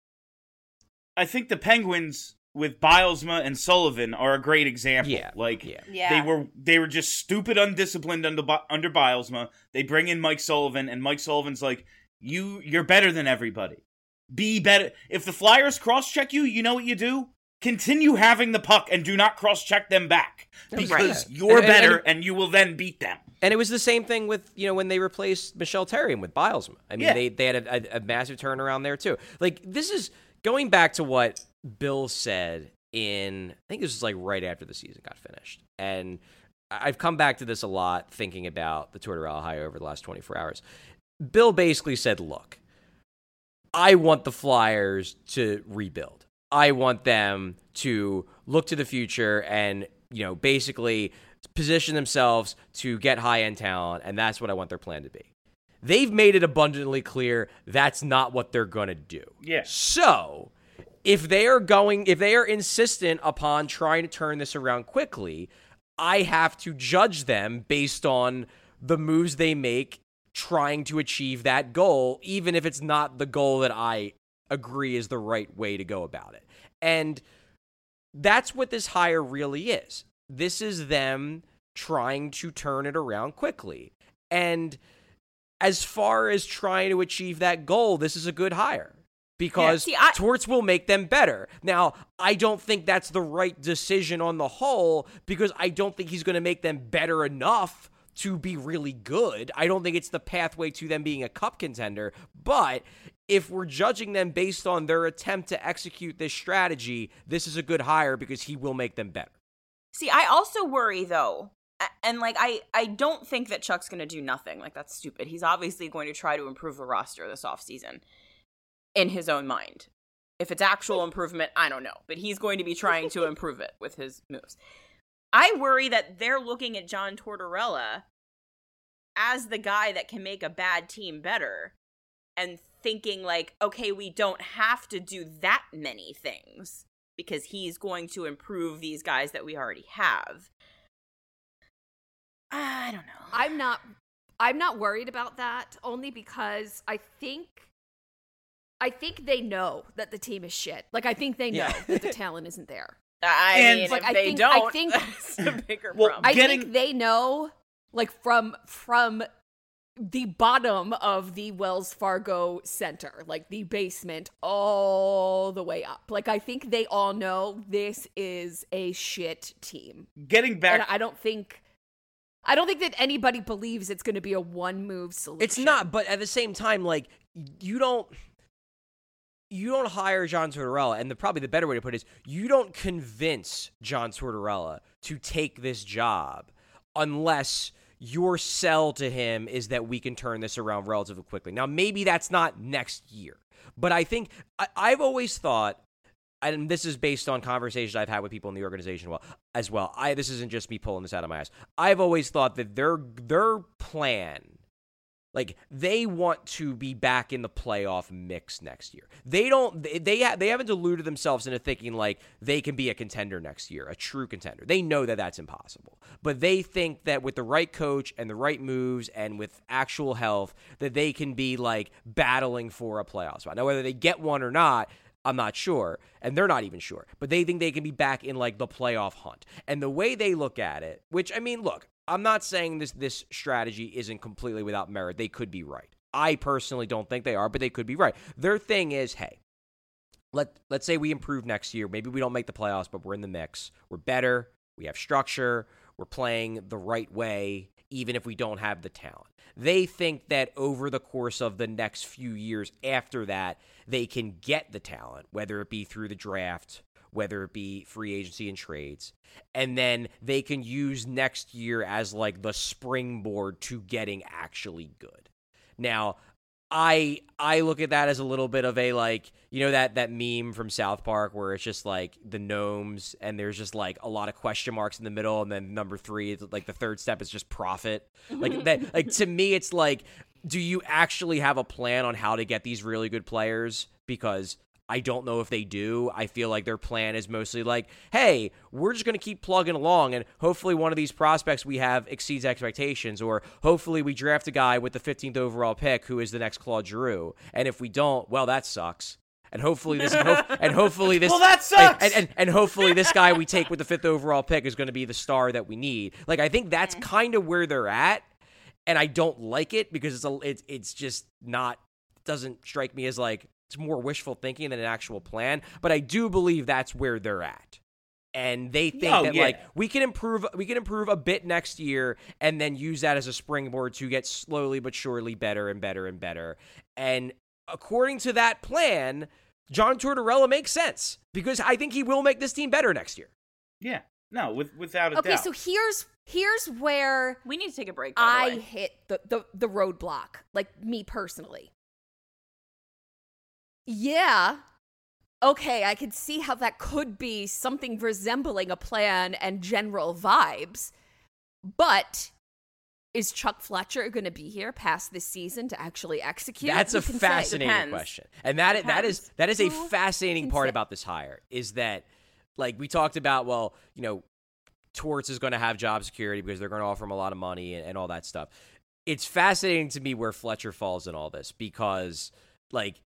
I think the Penguins with Bilesma and Sullivan are a great example. Yeah, like yeah. Yeah. they were they were just stupid, undisciplined under Bi- under Bilesma. They bring in Mike Sullivan, and Mike Sullivan's like, "You you're better than everybody. Be better. If the Flyers cross check you, you know what you do." Continue having the puck and do not cross-check them back because Right. you're And- and- better and- and you will then beat them. and it was the same thing with, you know, when they replaced Michelle Terrian with Bilesma. I mean, Yeah. they they had a, a, a massive turnaround there too. Like, this is going back to what Bill said in, I think this was like right after the season got finished, and I- I've come back to this a lot thinking about the Tortorella hire over the last twenty-four hours. Bill basically said, "Look, I want the Flyers to rebuild. I want them to look to the future and, you know, basically position themselves to get high-end talent, and that's what I want their plan to be." They've made it abundantly clear that's not what they're going to do. Yeah. So, if they are going, if they are insistent upon trying to turn this around quickly, I have to judge them based on the moves they make trying to achieve that goal, even if it's not the goal that I agree is the right way to go about it. And that's what this hire really is. This is them trying to turn it around quickly. And as far as trying to achieve that goal, this is a good hire because Yeah, see, I- Torts will make them better. Now, I don't think that's the right decision on the whole because I don't think he's going to make them better enough to be really good. I don't think it's the pathway to them being a cup contender. But if we're judging them based on their attempt to execute this strategy, this is a good hire because he will make them better. See, I also worry though, a- and like I, I don't think that Chuck's going to do nothing. Like that's stupid. He's obviously going to try to improve the roster this offseason in his own mind. If it's actual improvement, I don't know, but he's going to be trying to improve it with his moves. I worry that they're looking at John Tortorella as the guy that can make a bad team better and thinking like, okay, we don't have to do that many things because he's going to improve these guys that we already have. I don't know. I'm not I'm not worried about that only because I think I think they know that the team is shit. Like I think they know Yeah. that the talent isn't there. I And- mean, Like, if I they think- I don't, think- that's a bigger Well, problem. I Getting- think they know like from from the bottom of the Wells Fargo Center, like the basement all the way up. Like I think they all know this is a shit team. Getting back And I don't think I don't think that anybody believes it's going to be a one move solution. It's not, but at the same time, like, you don't you don't hire John Tortorella, and the probably the better way to put it is you don't convince John Tortorella to take this job unless your sell to him is that we can turn this around relatively quickly. Now, maybe that's not next year, but I think I, I've always thought, and this is based on conversations I've had with people in the organization well, as well. I this isn't just me pulling this out of my ass. I've always thought that their their plan, like they want to be back in the playoff mix next year. They don't. They they, ha- they haven't deluded themselves into thinking like they can be a contender next year, a true contender. They know that that's impossible, but they think that with the right coach and the right moves and with actual health, that they can be like battling for a playoff spot. Now, whether they get one or not, I'm not sure, and they're not even sure, but they think they can be back in like the playoff hunt. And the way they look at it, which I mean, look, I'm not saying this this strategy isn't completely without merit. They could be right. I personally don't think they are, but they could be right. Their thing is, hey, let let's say we improve next year. Maybe we don't make the playoffs, but we're in the mix. We're better. We have structure. We're playing the right way, even if we don't have the talent. They think that over the course of the next few years after that, they can get the talent, whether it be through the draft, whether it be free agency and trades, and then they can use next year as like the springboard to getting actually good. Now, I I look at that as a little bit of a like, you know, that that meme from South Park where it's just like the gnomes and there's just like a lot of question marks in the middle, and then number three, like the third step is just profit. Like that, like to me, it's like, do you actually have a plan on how to get these really good players? Because I don't know if they do. I feel like their plan is mostly like, hey, we're just going to keep plugging along, and hopefully one of these prospects we have exceeds expectations, or hopefully we draft a guy with the fifteenth overall pick who is the next Claude Giroux. And if we don't, well, that sucks. And hopefully this, ho- and hopefully this, well, that sucks. And, and, and hopefully this guy we take with the fifth overall pick is going to be the star that we need. Like, I think that's kind of where they're at, and I don't like it because it's a, it's it's just not, doesn't strike me as like, it's more wishful thinking than an actual plan, but I do believe that's where they're at. And they think oh, that yeah. like we can improve we can improve a bit next year and then use that as a springboard to get slowly but surely better and better and better. And according to that plan, John Tortorella makes sense because I think he will make this team better next year. Yeah. No, with, without a okay, doubt. so here's here's where We need to take a break, by I the way. hit the, the, the roadblock, like me personally. Yeah, okay, I can see how that could be something resembling a plan and general vibes, but is Chuck Fletcher going to be here past this season to actually execute? That's Who a can say? fascinating Depends. question. And that that is that is a Who fascinating can part say? about this hire is that, like we talked about, well, you know, Torts is going to have job security because they're going to offer him a lot of money and, and all that stuff. It's fascinating to me where Fletcher falls in all this because, like,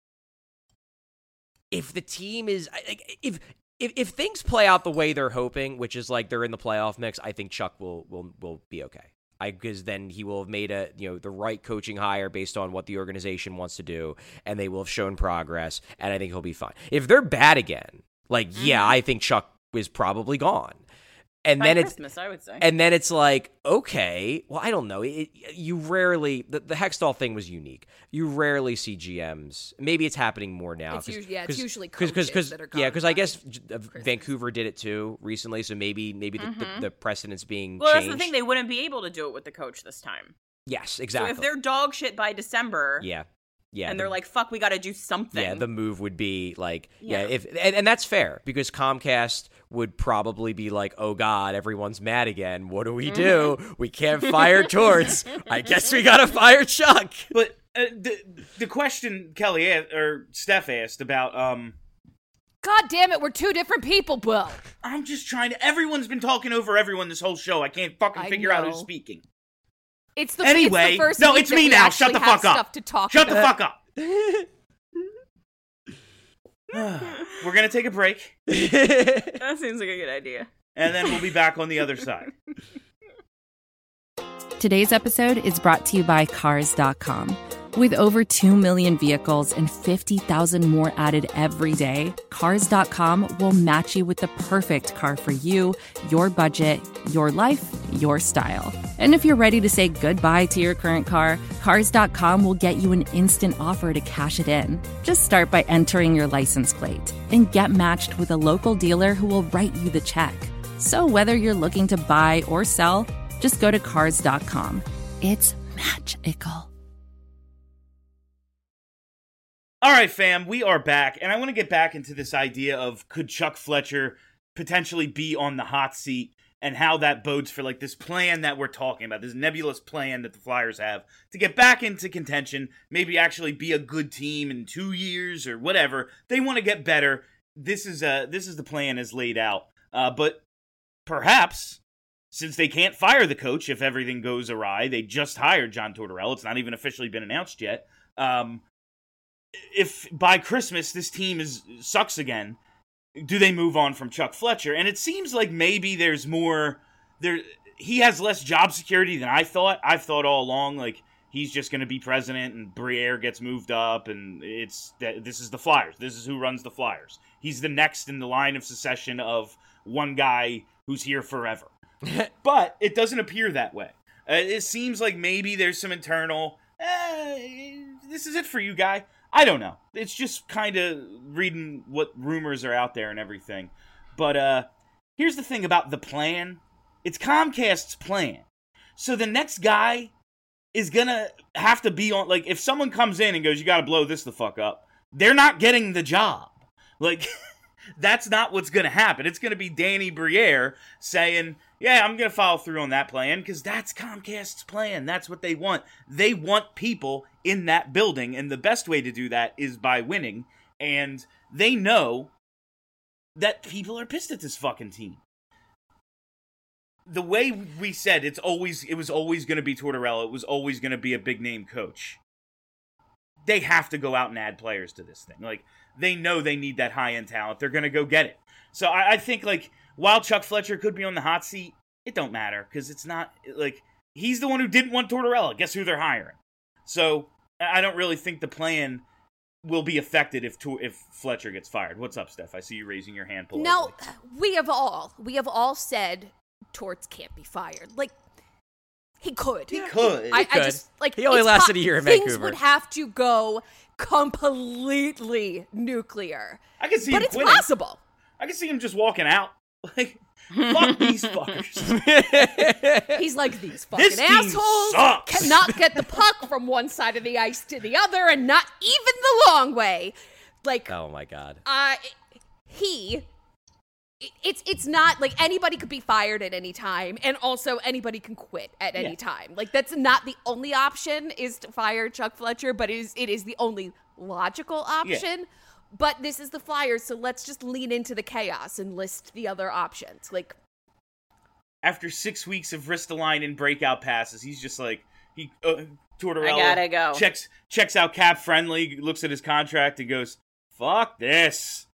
if the team is like, if if if things play out the way they're hoping, which is like they're in the playoff mix, I think Chuck will will will be okay. I because then he will have made a you know the right coaching hire based on what the organization wants to do, and they will have shown progress, and I think he'll be fine. If they're bad again, like mm-hmm. yeah, I think Chuck is probably gone. And By then Christmas, it's I would say. And then it's like, okay, well, I don't know. It, you rarely the, the Hextall thing was unique. You rarely see G Ms. Maybe it's happening more now. It's usually, yeah, it's usually cause, coaches cause, that are yeah, gone because I by guess Christmas. Vancouver did it too recently. So maybe maybe the, mm-hmm. the, the precedent's being well, changed. that's the thing. They wouldn't be able to do it with the coach this time. Yes, exactly. So if they're dog shit by December, yeah. Yeah, and the, they're like, "Fuck, we got to do something." Yeah, the move would be like, yeah, Yeah. if and, and that's fair because Comcast would probably be like, "Oh God, everyone's mad again. What do we do? Mm-hmm. We can't fire Torts. I guess we gotta fire Chuck." But uh, the the question Kelly asked, or Steph asked about, um, God damn it, we're two different people, Will. I'm just trying to. Everyone's been talking over everyone this whole show. I can't fucking I figure out know. who's speaking. It's the, Anyway, it's the first no, week it's that me we now. Shut actually the have fuck up. Stuff to talk Shut about. the fuck up. We're gonna take a break, That seems like a good idea. and then we'll be back on the other side. Today's episode is brought to you by Cars dot com. With over two million vehicles and fifty thousand more added every day, Cars dot com will match you with the perfect car for you, your budget, your life, your style. And if you're ready to say goodbye to your current car, Cars dot com will get you an instant offer to cash it in. Just start by entering your license plate and get matched with a local dealer who will write you the check. So whether you're looking to buy or sell, just go to Cars dot com. It's magical. All right, fam, we are back, and I want to get back into this idea of could Chuck Fletcher potentially be on the hot seat and how that bodes for like this plan that we're talking about, this nebulous plan that the Flyers have to get back into contention, maybe actually be a good team in two years or whatever. They want to get better. This is uh, this is the plan as laid out. Uh, but perhaps, since they can't fire the coach if everything goes awry, they just hired John Tortorella. It's not even officially been announced yet. Um... If by Christmas this team is sucks again, do they move on from Chuck Fletcher? And it seems like maybe there's more there. He has less job security than I thought. I've thought all along like he's just going to be president and Briere gets moved up, and it's that this is the Flyers. This is who runs the Flyers. He's the next in the line of succession of one guy who's here forever. But it doesn't appear that way. Uh, it seems like maybe there's some internal. Eh, this is it for you, guy. I don't know. It's just kind of reading what rumors are out there and everything. But uh, here's the thing about the plan. It's Comcast's plan. So the next guy is going to have to be on... Like, if someone comes in and goes, you got to blow this the fuck up, they're not getting the job. Like, that's not what's going to happen. It's going to be Danny Briere saying... Yeah, I'm going to follow through on that plan because that's Comcast's plan. That's what they want. They want people in that building, and the best way to do that is by winning. And they know that people are pissed at this fucking team. The way we said it's always it was always going to be Tortorella. It was always going to be a big-name coach. They have to go out and add players to this thing. Like, they know they need that high-end talent. They're going to go get it. So I, I think, like... While Chuck Fletcher could be on the hot seat, it don't matter, because it's not, like, he's the one who didn't want Tortorella. Guess who they're hiring? So, I don't really think the plan will be affected if if Fletcher gets fired. What's up, Steph? I see you raising your hand politely. No, we have all, we have all said Torts can't be fired. Like, he could. He could. I, he could. I just, like, he only it's lasted po- a year in things Vancouver. Things would have to go completely nuclear. I can see but him it's quitting. possible. I can see him just walking out. Like, fuck these fuckers. He's like, these fucking This team assholes sucks. cannot get the puck from one side of the ice to the other, and not even the long way. Like, Oh my god. uh, he, it- it's it's not like anybody could be fired at any time, and also anybody can quit at any Yeah. time. Like, that's not the only option is to fire Chuck Fletcher, but it is it is the only logical option. But this is the Flyers, so let's just lean into the chaos and list the other options. Like, After six weeks of Ristolainen and breakout passes, he's just like, he uh, Tortorella I gotta go. checks checks out Cap Friendly, looks at his contract, and goes, fuck this.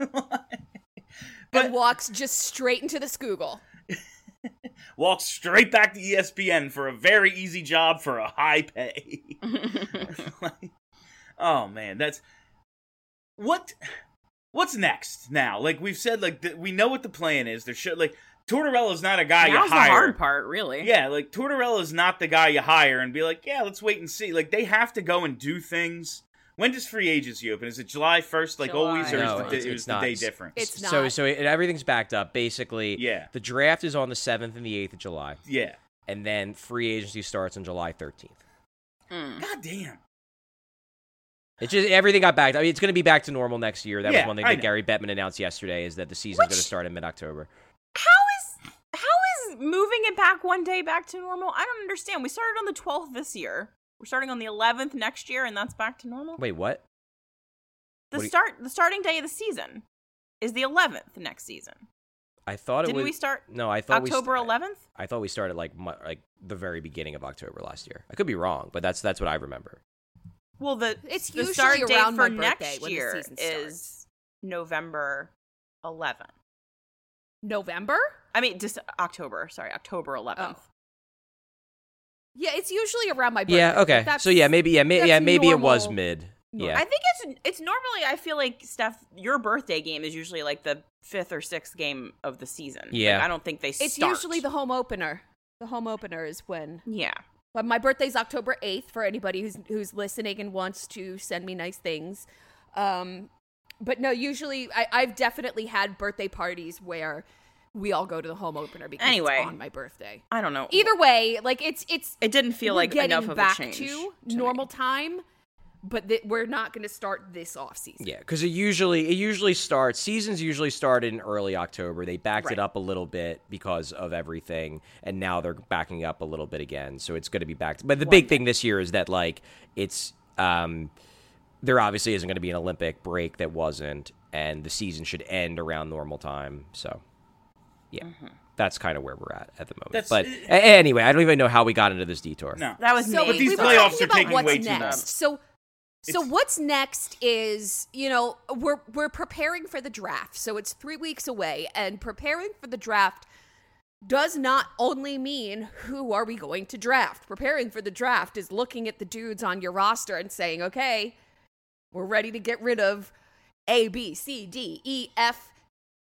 and walks just straight into the Skoogle. Walks straight back to E S P N for a very easy job for a high pay. Like, oh, man, that's... What, what's next now? Like, we've said, like, the, we know what the plan is. There should, like, Tortorella's not a guy Now's you the hire. hard part, really. Yeah, like, Tortorella's not the guy you hire and be like, yeah, let's wait and see. Like, they have to go and do things. When does free agency open? Is it July first, like July. always, or No, is the, it's- it it's was the not. day different? It's not. So so it, everything's backed up. Basically, Yeah. the draft is on the seventh and the eighth of July, Yeah. and then free agency starts on July thirteenth. Mm. God damn. It's just everything got backed. I mean, it's going to be back to normal next year. That Yeah, was one thing I that know. Gary Bettman announced yesterday is that the season's Which- going to start in mid-October. How is how is moving it back one day back to normal? I don't understand. We started on the twelfth this year. We're starting on the eleventh next year, and that's back to normal. Wait, what? the what do you- start the starting day of the season is the eleventh next season. I thought it Didn't was. we start No, I thought October we. st- eleventh? I thought we started like mu- like the very beginning of October last year. I could be wrong, but that's that's what I remember. Well, the It's the usually start date around for my birthday next when the year season starts. is November eleventh. November? I mean, just October. Sorry, October eleventh. Oh. Yeah, it's usually around my birthday. Yeah, okay. That's, so yeah, maybe yeah, may, that's yeah, maybe it was normal. mid. Yeah. I think it's it's normally, I feel like, Steph, your birthday game is usually like the fifth or sixth game of the season. Yeah. Like, I don't think they It's start. usually the home opener. The home opener is when. Yeah. But my birthday's October eighth for anybody who's who's listening and wants to send me nice things. Um, but no, usually I, I've definitely had birthday parties where we all go to the home opener because Anyway. it's on my birthday. I don't know. Either way, like it's it's It didn't feel we're like getting enough of a back change to to normal me. time, but th- we're not going to start this off season. Yeah, because it usually it usually starts. Seasons usually start in early October. They backed Right. it up a little bit because of everything, and now they're backing up a little bit again. So it's going to be back. To, but the big thing this year is that like it's um, there obviously isn't going to be an Olympic break that wasn't, and the season should end around normal time. So yeah, that's kind of where we're at at the moment. That's- but a- anyway, I don't even know how we got into this detour. No. That was So me. But these we were playoffs talking are about taking what's way too next. long. So, so It's- what's next is, you know, we're we're preparing for the draft. So it's three weeks away, and preparing for the draft does not only mean who are we going to draft. Preparing for the draft is looking at the dudes on your roster and saying, okay, we're ready to get rid of A, B, C, D, E, F,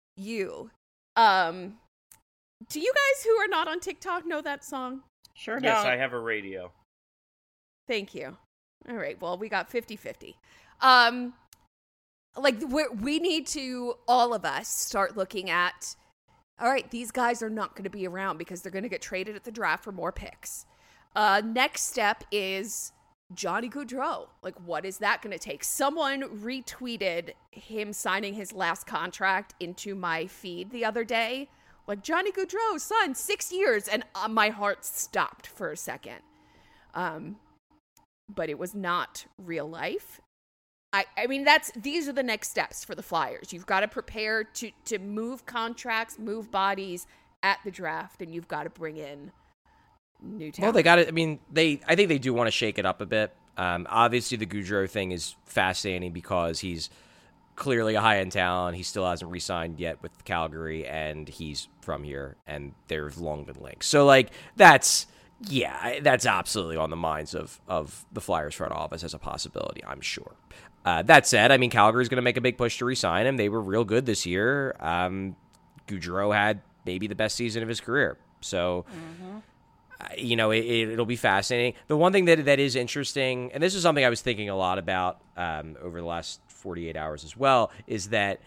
U. Um, do you guys who are not on TikTok know that song? Sure Yes, don't. I have a radio. Thank you. All right. Well, we got fifty-fifty. Um, like, we're, we need to, all of us, start looking at, all right, these guys are not going to be around because they're going to get traded at the draft for more picks. Uh, next step is Johnny Gaudreau. Like, what is that going to take? Someone retweeted him signing his last contract into my feed the other day. Like, Johnny Gaudreau signed six years, and uh, my heart stopped for a second. Um, but it was not real life. I, I mean, that's these are the next steps for the Flyers. You've got to prepare to to move contracts, move bodies at the draft, and you've got to bring in new talent. Well, they got it. I mean, they. I think they do want to shake it up a bit. Um, obviously, the Gaudreau thing is fascinating because he's clearly a high-end talent. He still hasn't re-signed yet with Calgary, and he's from here, and there's long been links. So, like, that's yeah, that's absolutely on the minds of of the Flyers front office as a possibility, I'm sure. Uh, that said, I mean, Calgary's going to make a big push to re-sign him. They were real good this year. Um, Gaudreau had maybe the best season of his career. So, mm-hmm. uh, you know, it, it, it'll be fascinating. The one thing that that is interesting, and this is something I was thinking a lot about um, over the last forty-eight hours as well, is that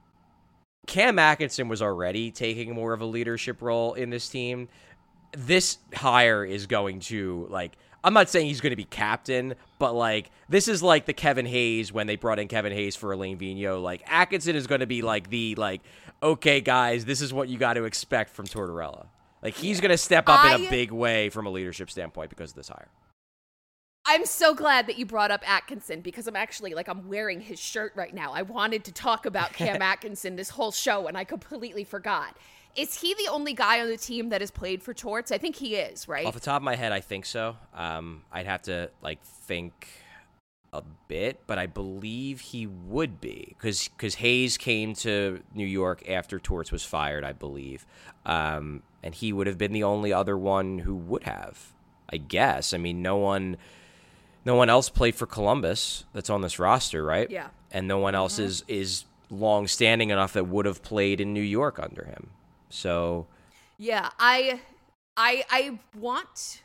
Cam Atkinson was already taking more of a leadership role in this team. This hire is going to, like, I'm not saying he's going to be captain, but, like, this is like the Kevin Hayes when they brought in Kevin Hayes for Alain Vigneault. Like, Atkinson is going to be, like, the, like, okay, guys, this is what you got to expect from Tortorella. Like, he's going to step up I, in a big way from a leadership standpoint because of this hire. I'm so glad that you brought up Atkinson because I'm actually, like, I'm wearing his shirt right now. I wanted to talk about Cam Atkinson this whole show, and I completely forgot. Is he the only guy on the team that has played for Torts? I think he is, right? Off the top of my head, I think so. Um, I'd have to, like, think a bit, but I believe he would be because because Hayes came to New York after Torts was fired, I believe, um, and he would have been the only other one who would have, I guess. I mean, no one, no one else played for Columbus that's on this roster, right? Yeah. And no one else Mm-hmm. is is long standing enough that would have played in New York under him. So, Yeah, I, I, I want.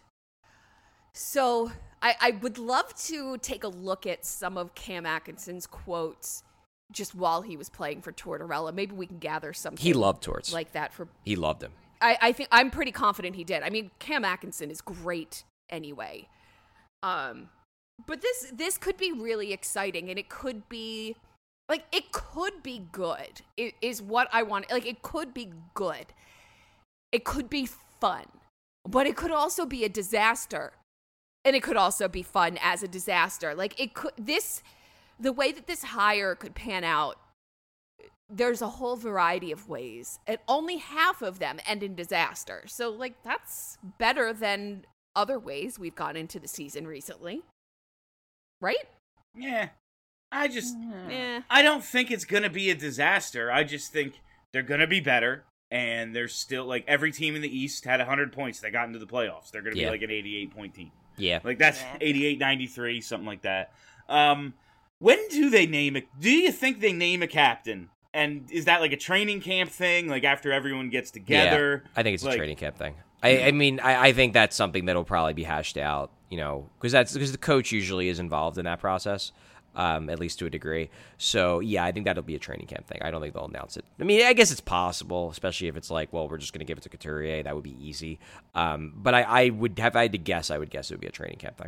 So I, I would love to take a look at some of Cam Atkinson's quotes just while he was playing for Tortorella. Maybe we can gather something. he loved Torts. like that for. he loved him. I, I think I'm pretty confident he did. I mean, Cam Atkinson is great anyway. Um, but this this could be really exciting, and it could be. Like, it could be good, it is what I want. Like, it could be good. It could be fun. But it could also be a disaster. And it could also be fun as a disaster. Like, it could, this, the way that this hire could pan out, there's a whole variety of ways. And only half of them end in disaster. So, like, that's better than other ways we've gone into the season recently. Right? Yeah. I just, Yeah. I don't think it's going to be a disaster. I just think they're going to be better. and there's still like every team in the East had one hundred points that got into the playoffs. They're going to be Yeah. like an eighty-eight point team. Yeah. Like that's Yeah. eighty-eight ninety-three, something like that. Um, when do they name it? Do you think they name a captain? And is that like a training camp thing? Like after everyone gets together? Yeah, I think it's like, a training camp thing. I, I mean, I, I think that's something that'll probably be hashed out, you know, because that's because the coach usually is involved in that process, um, at least to a degree. So yeah, I think that'll be a training camp thing. I don't think they'll announce it. I mean, I guess it's possible, especially if it's like, well, we're just going to give it to Couturier. That would be easy. Um, but I, I would have I had to guess. I would guess it would be a training camp thing.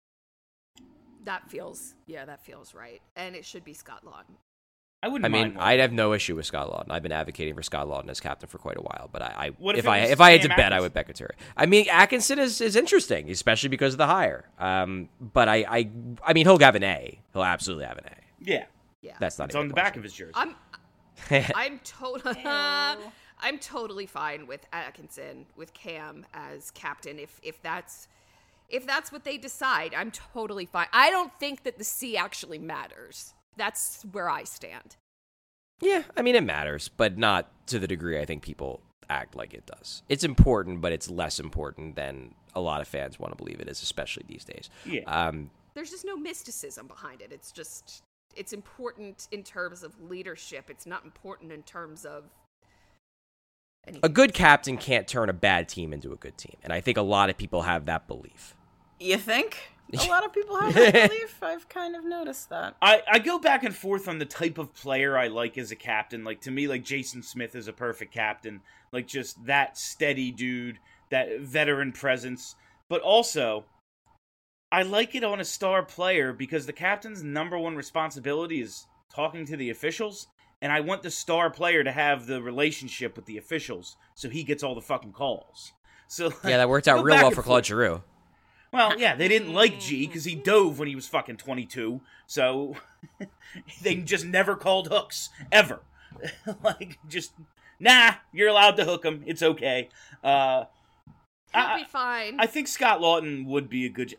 That feels, yeah, that feels right. And it should be Scott Lawton. I wouldn't I mean, mind one. I'd have no issue with Scott Lawton. I've been advocating for Scott Lawton as captain for quite a while, but I, I What if, if it I was if I had to Cam bet, I Atkinson? would bet Couturier. I mean, Atkinson is, is interesting, especially because of the hire. Um, but I, I I mean, he'll have an A. He'll absolutely have an A. Yeah. Yeah. That's not It's even on a the back question. of his jersey. I'm I'm totally I'm totally fine with Atkinson, with Cam as captain if if that's if that's what they decide. I'm totally fine. I don't think that the C actually matters. That's where I stand. Yeah, I mean, it matters, but not to the degree I think people act like it does. It's important, but it's less important than a lot of fans want to believe it is, especially these days. Yeah. Um, There's just no mysticism behind it. It's just it's important in terms of leadership. It's not important in terms of anything. a good captain can't turn a bad team into a good team, and I think a lot of people have that belief. You think? A lot of people have that belief. I've kind of noticed that. I, I go back and forth on the type of player I like as a captain. Like, to me, like, Jason Smith is a perfect captain. Like, just that steady dude, that veteran presence. But also, I like it on a star player because the captain's number one responsibility is talking to the officials. And I want the star player to have the relationship with the officials so he gets all the fucking calls. So like, Yeah, that worked out go real back well and for Claude forth. Giroux. Well, yeah, they didn't like G because he dove when he was fucking twenty-two. So they just never called hooks ever. Like, just nah, you're allowed to hook him. It's okay. Uh, He'll I, be fine. I think Scott Lawton would be a good.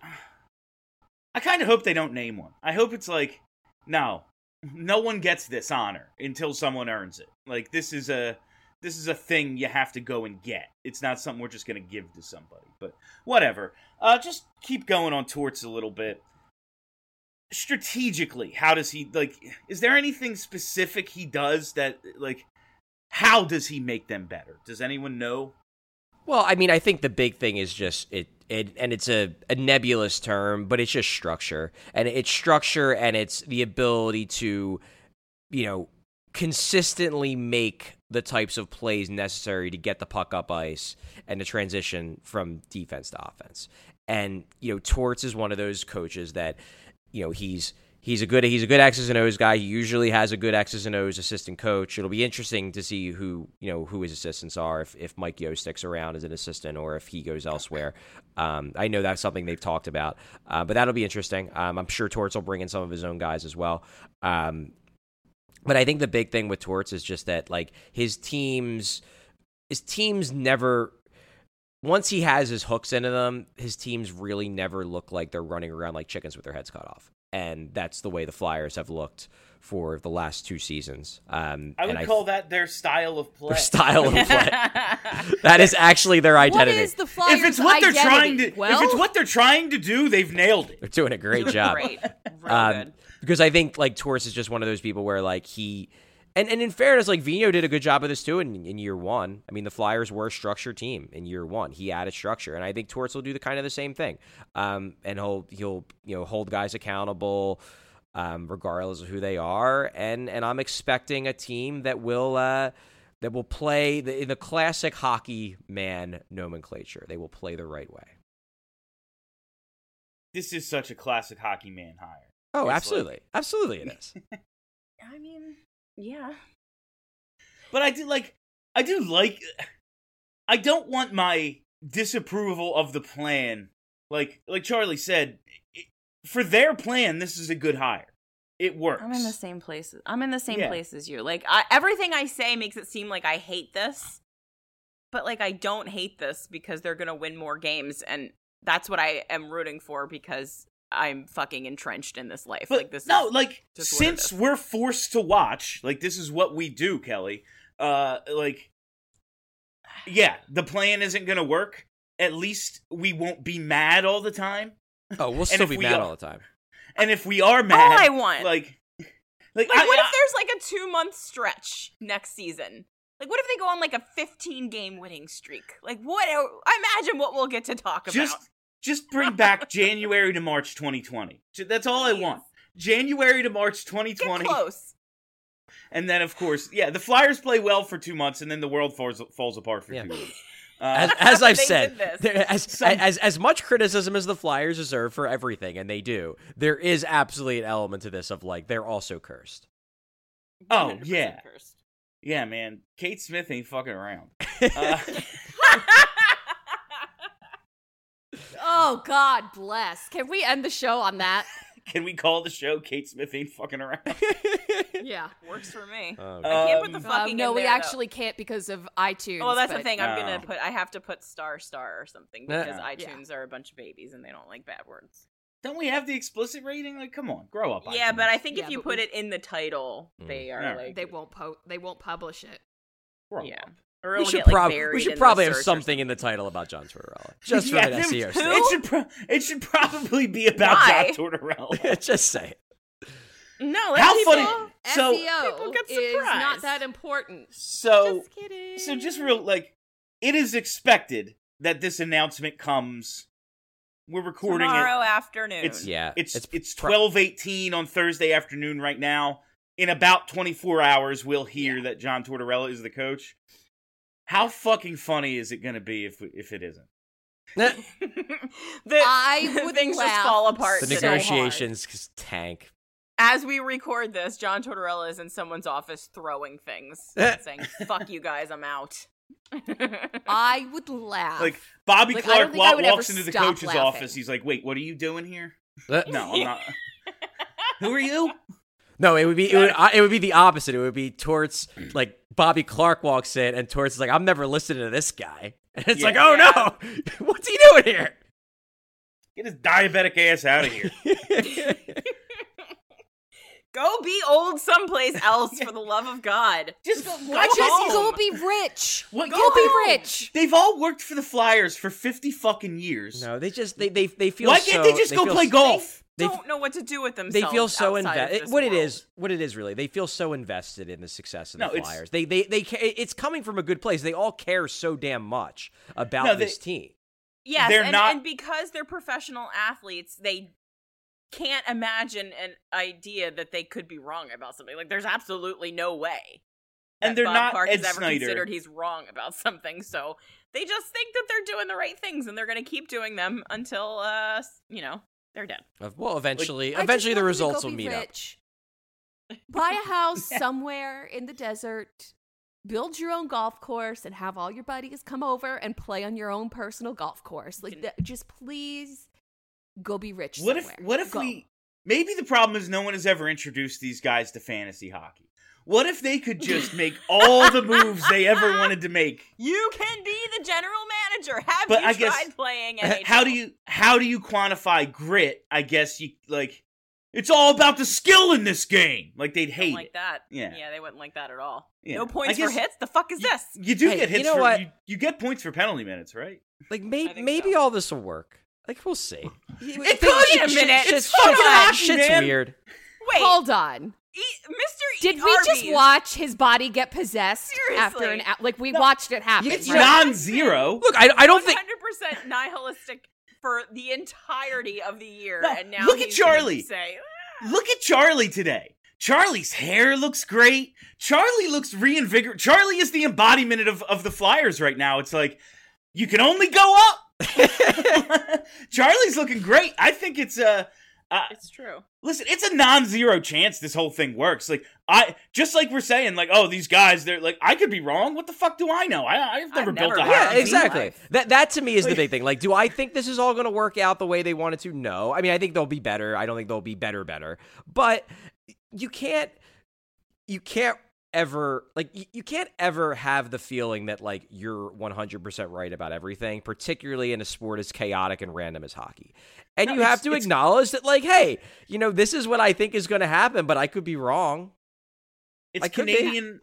I kind of hope they don't name one. I hope it's like, no, no one gets this honor until someone earns it. Like this is a. This is a thing you have to go and get. It's not something we're just going to give to somebody. But whatever. Uh, just keep going on Torts a little bit. Strategically, how does he, like, is there anything specific he does that, like, how does he make them better? Does anyone know? Well, I mean, I think the big thing is just it, it and it's a, a nebulous term, but it's just structure. And it's structure and it's the ability to, you know, consistently make the types of plays necessary to get the puck up ice and to transition from defense to offense. And, you know, Torts is one of those coaches that, you know, he's he's a good he's a good X's and O's guy. He usually has a good X's and O's assistant coach. It'll be interesting to see who, you know, who his assistants are, if, if Mike Yo sticks around as an assistant or if he goes elsewhere. Um, I know that's something they've talked about, uh, but that'll be interesting. Um, I'm sure Torts will bring in some of his own guys as well. Um, But I think the big thing with Torts is just that, like, his teams, his teams never, once he has his hooks into them, his teams really never look like they're running around like chickens with their heads cut off. And that's the way the Flyers have looked for the last two seasons. Um, I would and call that their style of play. their style of play. That is actually their identity. What is the Flyers' If it's what they're identity? trying to, well, if it's what they're trying to do, they've nailed it. They're doing a great job. Great. Real Um, good. Because I think, like, Torres is just one of those people where, like, he... And, and in fairness, like, Vino did a good job of this, too, in, in year one. I mean, the Flyers were a structured team in year one. He added structure, and I think Torres will do the kind of the same thing. Um, and he'll, he'll, you know, hold guys accountable um, regardless of who they are. And, and I'm expecting a team that will... Uh, that will play the, in the classic hockey man nomenclature. They will play the right way. This is such a classic hockey man hire. Oh, It's absolutely. like- Absolutely it is. I mean, yeah. But I do like, I do like, I don't want my disapproval of the plan. Like, like Charlie said, it, for their plan, this is a good hire. It works. I'm in the same place. I'm in the same Yeah. place as you. Like, I, everything I say makes it seem like I hate this, but like I don't hate this because they're gonna win more games, and that's what I am rooting for because I'm fucking entrenched in this life. But like this. no, is like just what it since is. we're forced to watch, like this is what we do, Kelly. Uh, like yeah, the plan isn't going to work, at least we won't be mad all the time. Oh, we'll And still if be we mad are- all the time. And if we are mad, All I want. like, like, Like, I, what I- if there's like a two month stretch next season? Like, what if they go on like a fifteen game winning streak? Like, what? Imagine what we'll get to talk about. just just bring back January to March twenty twenty. Ju- That's all I Please. want. January to March twenty Get twenty. close. And then, of course, yeah, the Flyers play well for two months, and then the world falls falls apart for Yeah. two weeks. As, Uh, as I've They said, did this. there, as, Some- as as much criticism as the Flyers deserve for everything, and they do, there is absolutely an element to this of like they're also cursed. Oh, one hundred percent yeah. cursed. yeah, man, Kate Smith ain't fucking around. Uh, Oh, God bless. Can we end the show on that? can we call the show Kate Smith ain't fucking around? Yeah. Works for me. Oh, I can't put the Um, fucking Um, no, in we there, though. actually can't because of iTunes. Well, that's the but- thing. I'm Oh. gonna put. I have to put star star or something because Yeah. iTunes are a bunch of babies and they don't like bad words. Don't we have the explicit rating? Like, come on, grow up. Yeah, iTunes. but I think Yeah, if you but put we- it in the title, Mm. they are Alright. like They won't po- They won't publish it. Grow yeah. up. Or we it'll should, get, like, prob- buried we should in the probably have search or something in the title about John Tortorella, just for Yeah, an there- S E O Who? sake. It should pro- it should probably be about Why? John Tortorella. Just say it. No, let How people, funny- So- S E O People get is not surprised. that important. So, Just kidding. so just real like, it is expected that this announcement comes. We're recording tomorrow it. afternoon. It's Yeah, It's it's, it's pro- twelve eighteen on Thursday afternoon right now. In about twenty-four hours, we'll hear Yeah. that John Tortorella is the coach. How fucking funny is it going to be if if it isn't? Nah, the, I would things laugh just fall apart. the so today. negotiations tank. As we record this, John Tortorella is in someone's office throwing things, and saying, "Fuck you guys, I'm out." I would laugh. Like Bobby Like, I don't Clark think I wa- would walks ever into the stop coach's laughing. office. He's like, "Wait, what are you doing here?" Uh, No, I'm not. Who are you? No, it would be it would, uh, it would be the opposite. It would be Torts like Bobby Clark walks in and Torts is like, I'm never listening to this guy. And it's Yeah. like, oh Yeah. no, what's he doing here? Get his diabetic ass out of here. Go be old someplace else, for the love of God. Just go, Go watch just it. home. go be rich. What, Go go be home. rich. They've all worked for the Flyers for fifty fucking years. No, they just they they they feel. Why can't so, they just go feel play s- golf? They- Don't know what to do with They themselves. feel so outside of invested. this What it world. is, what it is really, they feel so invested in the success of the No, it's- Flyers. They they they ca- it's coming from a good place. They all care so damn much about No, they- this team. Yes, They're and, not- and because they're professional athletes, they can't imagine an idea that they could be wrong about something. Like, there's absolutely no way. And that they're Bob not Clark Ed has ever Snyder. considered he's wrong about something. So they just think that they're doing the right things, and they're going to keep doing them until, uh, you know, they're dead. Uh, Well, eventually, I just eventually the want them to results go will be meet up. rich. Buy a house somewhere in the desert. Build your own golf course and have all your buddies come over and play on your own personal golf course. Like, that, just please go be rich. What if somewhere. what if Go. we maybe the problem is no one has ever introduced these guys to fantasy hockey. What if they could just make all the moves they ever wanted to make? You can be the general manager. Have But you I tried guess- playing N H L? How do you how do you quantify grit? I guess you like it's all about the skill in this game. Like they'd Don't hate like it. that? Yeah. yeah, they wouldn't like that at all. Yeah. No I points guess for hits. The fuck is you- this? You do Hey, get you hits know for what? You, you get points for penalty minutes, right? Like I maybe think maybe so. all this will work. Like we'll see. It Things- could! Wait a minute. Shit's, It's shit's, fun. shit's man. weird. Wait, Hold on. E- Mister Did E- we just Arby's. watch his body get possessed Seriously. after an a- like we watched it happen? It's right? non-zero. Look, I I don't think. one hundred percent nihilistic for the entirety of the year, No, and now look at he's gonna Charlie. Say, Look at Charlie today. Charlie's hair looks great. Charlie looks reinvigorated. Charlie is the embodiment of, of the Flyers right now. It's like, you can only go up. Charlie's looking great. I think it's a... Uh, it's true. listen, it's a non-zero chance this whole thing works. Like, I... Just like we're saying, like, oh, these guys, they're like, I could be wrong. What the fuck do I know? I, I've never I've built never a been- hockey Yeah, team. exactly. That that to me is the Like- big thing. Like, do I think this is all going to work out the way they wanted to? No. I mean, I think they'll be better. I don't think they'll be better, better. But you can't, you can't ever like you, you can't ever have the feeling that like you're one hundred percent right about everything, particularly in a sport as chaotic and random as hockey. And No, you have it's- to it's- acknowledge that, like, hey, you know, this is what I think is going to happen, but I could be wrong. It's I could be. Canadian...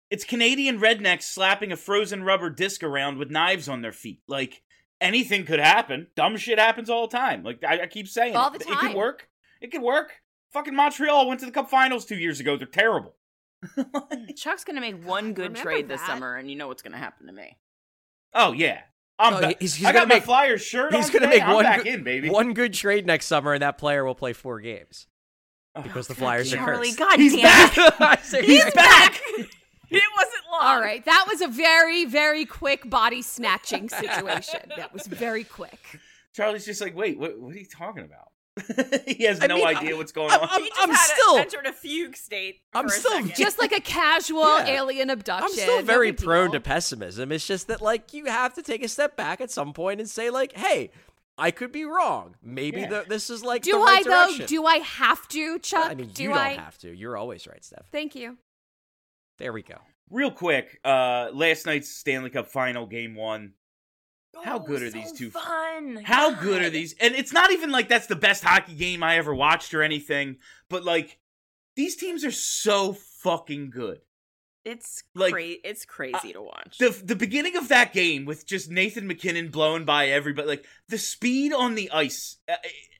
It's Canadian rednecks slapping a frozen rubber disc around with knives on their feet. Like, anything could happen. Dumb shit happens all the time. Like, I, I keep saying All it. the It could time. work. It could work. Fucking Montreal went to the Cup Finals two years ago. They're terrible. Chuck's gonna make one good Remember trade this that. summer, and you know what's gonna happen to me. Oh, yeah. I'm Oh, back. he's- he's I got gonna my make- Flyers shirt He's on gonna today. make I'm one back good, in, baby. one good trade next summer, and that player will play four games because the Flyers are Charlie, cursed. God He's damn back. it. He's back. It wasn't long. All right, that was a very, very quick body snatching situation. That was very quick. Charlie's just like, wait, what, what are you talking about? He has I no mean, idea what's going I'm- on. I'm- He just I'm had still- a, entered a fugue state. I'm for a still second. Just like a casual Yeah. alien abduction. I'm still no very big prone to deal. pessimism. It's just that, like, you have to take a step back at some point and say, like, hey, I could be wrong. Maybe Yeah. the, this is, like, Do the I right though? direction. Do I have to, Chuck? I mean, Do you don't I? have to. You're always right, Steph. Thank you. There we go. Real quick, uh, last night's Stanley Cup Final, Game One. How Oh, good are so these two? Fun. How God. good are these? And it's not even like that's the best hockey game I ever watched or anything, but like these teams are so fucking good. It's Like, cra- It's crazy to watch. The the beginning of that game with just Nathan McKinnon blowing by everybody, like the speed on the ice. uh,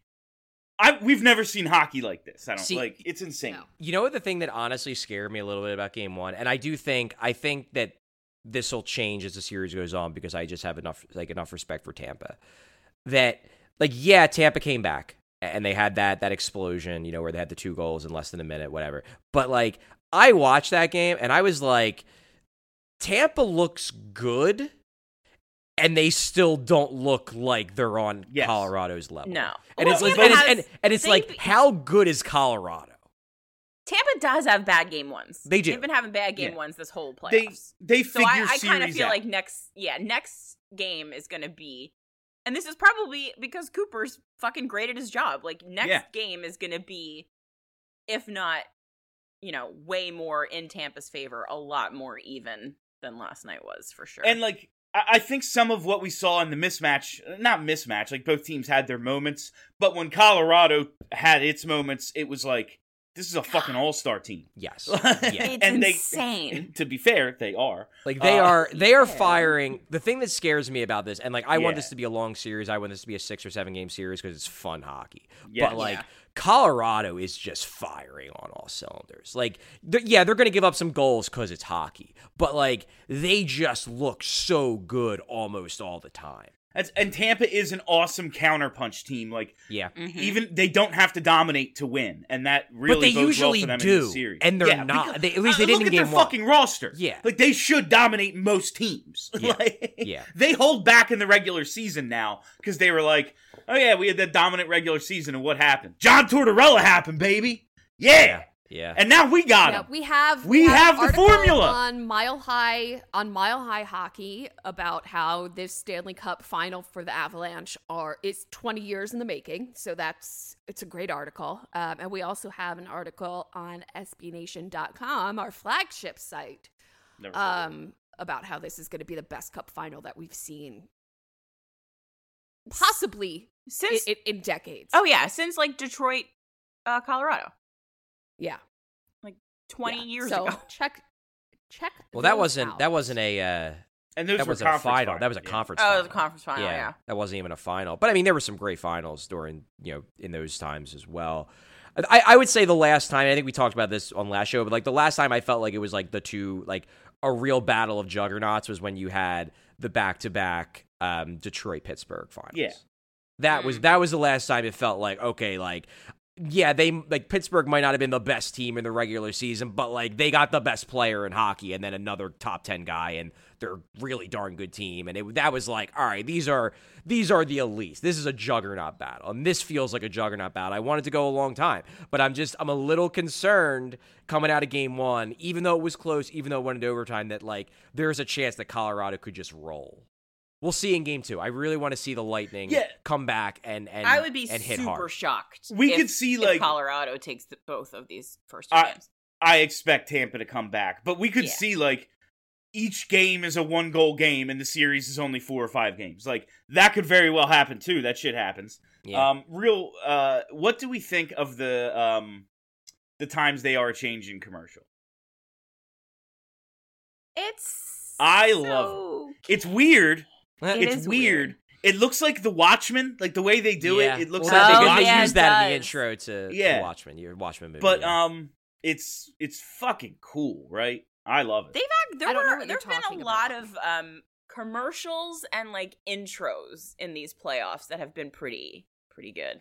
I we've never seen hockey like this. I don't See, like it's insane. No. You know what the thing that honestly scared me a little bit about game one? And I do think, I think that this will change as the series goes on because I just have enough, like, enough respect for Tampa. That, like, yeah, Tampa came back and they had that, that explosion, you know, where they had the two goals in less than a minute, whatever. But, like, I watched that game and I was like, Tampa looks good and they still don't look like they're on Yes. Colorado's level. No. And Well, it's like, Tampa and it's, has- and, and it's they- like, how good is Colorado? Tampa does have bad game ones. They do. They've been having bad game Yeah. ones this whole They playoffs. they so figure I, I kind of series feel out. like next, yeah, next game is going to be, and this is probably because Cooper's fucking great at his job. Like next Yeah. game is going to be, if not, you know, way more in Tampa's favor, a lot more even than last night was for sure. And like I I think some of what we saw in the mismatch, not mismatch, like both teams had their moments, but when Colorado had its moments, it was like this is a fucking all-star team. Yes. Yeah. It's and they, insane. To be fair, they are. Like they Uh, are they are firing. The thing that scares me about this, and like I want Yeah. this to be a long series, I want this to be a six or seven game series because it's fun hockey. Yeah. But like Yeah. Colorado is just firing on all cylinders. Like they're- yeah, they're going to give up some goals because it's hockey, but like they just look so good almost all the time. That's, and Tampa is an awesome counterpunch team. Like Yeah. Mhm. even they don't have to dominate to win, and that really But they bodes usually well for them do, in the series. and they're Yeah, not. because- They- at least they uh, didn't look in at game their one. fucking roster. Yeah. like they should dominate most teams. Yeah. Like, Yeah. they hold back in the regular season now because they were like, oh yeah, we had that dominant regular season, and what happened? John Tortorella happened, baby. Yeah, Yeah. and now we got Yeah, him. we have We an have the article formula. on Mile High on Mile High Hockey about how this Stanley Cup final for the Avalanche are is twenty years in the making. So that's it's a great article. Um, and we also have an article on S B Nation dot com, our flagship site, Never heard of it. um, about how this is going to be the best Cup final that we've seen, possibly Since in, in decades. oh yeah, since like Detroit, uh, Colorado, yeah, twenty yeah. years so ago. check check. Well, that those wasn't out. that wasn't a uh, and those that were wasn't a conference final. finals, That was a yeah. conference. Oh, it final. was a conference final. Yeah. that wasn't even a final. But I mean, there were some great finals during you know in those times as well. I, I would say the last time I think we talked about this on last show, but like the last time I felt like it was like the two like a real battle of juggernauts was when you had the back to back Detroit Pittsburgh finals. Yeah. That was Mm. that was the last time it felt like okay, like yeah, they like Pittsburgh might not have been the best team in the regular season, but like they got the best player in hockey and then another top ten guy, and they're a really darn good team. And it, that was like, all right, these are these are the elites. This is a juggernaut battle, and this feels like a juggernaut battle. I wanted to go a long time, but I'm just I'm a little concerned coming out of game one, even though it was close, even though it went into overtime, that like there's a chance that Colorado could just roll. We'll see in game two. I really want to see the Lightning Yeah. come back and and I would be and hit super hard. shocked. We if- could see, if like- Colorado takes the, both of these first two I- games. I expect Tampa to come back, but we could Yeah. see like each game is a one goal game and the series is only four or five games. Like that could very well happen too. That shit happens. Yeah. Um, real. Uh, what do we think of the um, the times they are changing commercial? It's I so love it. It's weird. It it's is weird. weird. It looks like The Watchmen, like the way they do Yeah. it. It looks well, like they, The they Watchmen. yeah, use it that in the does. intro to, Yeah. to Watchmen, your Watchmen movie. But yeah. um, it's it's fucking cool, right? I love it. They've had, there I don't know were what you're there've been talking a lot about. of um commercials and like intros in these playoffs that have been pretty pretty good.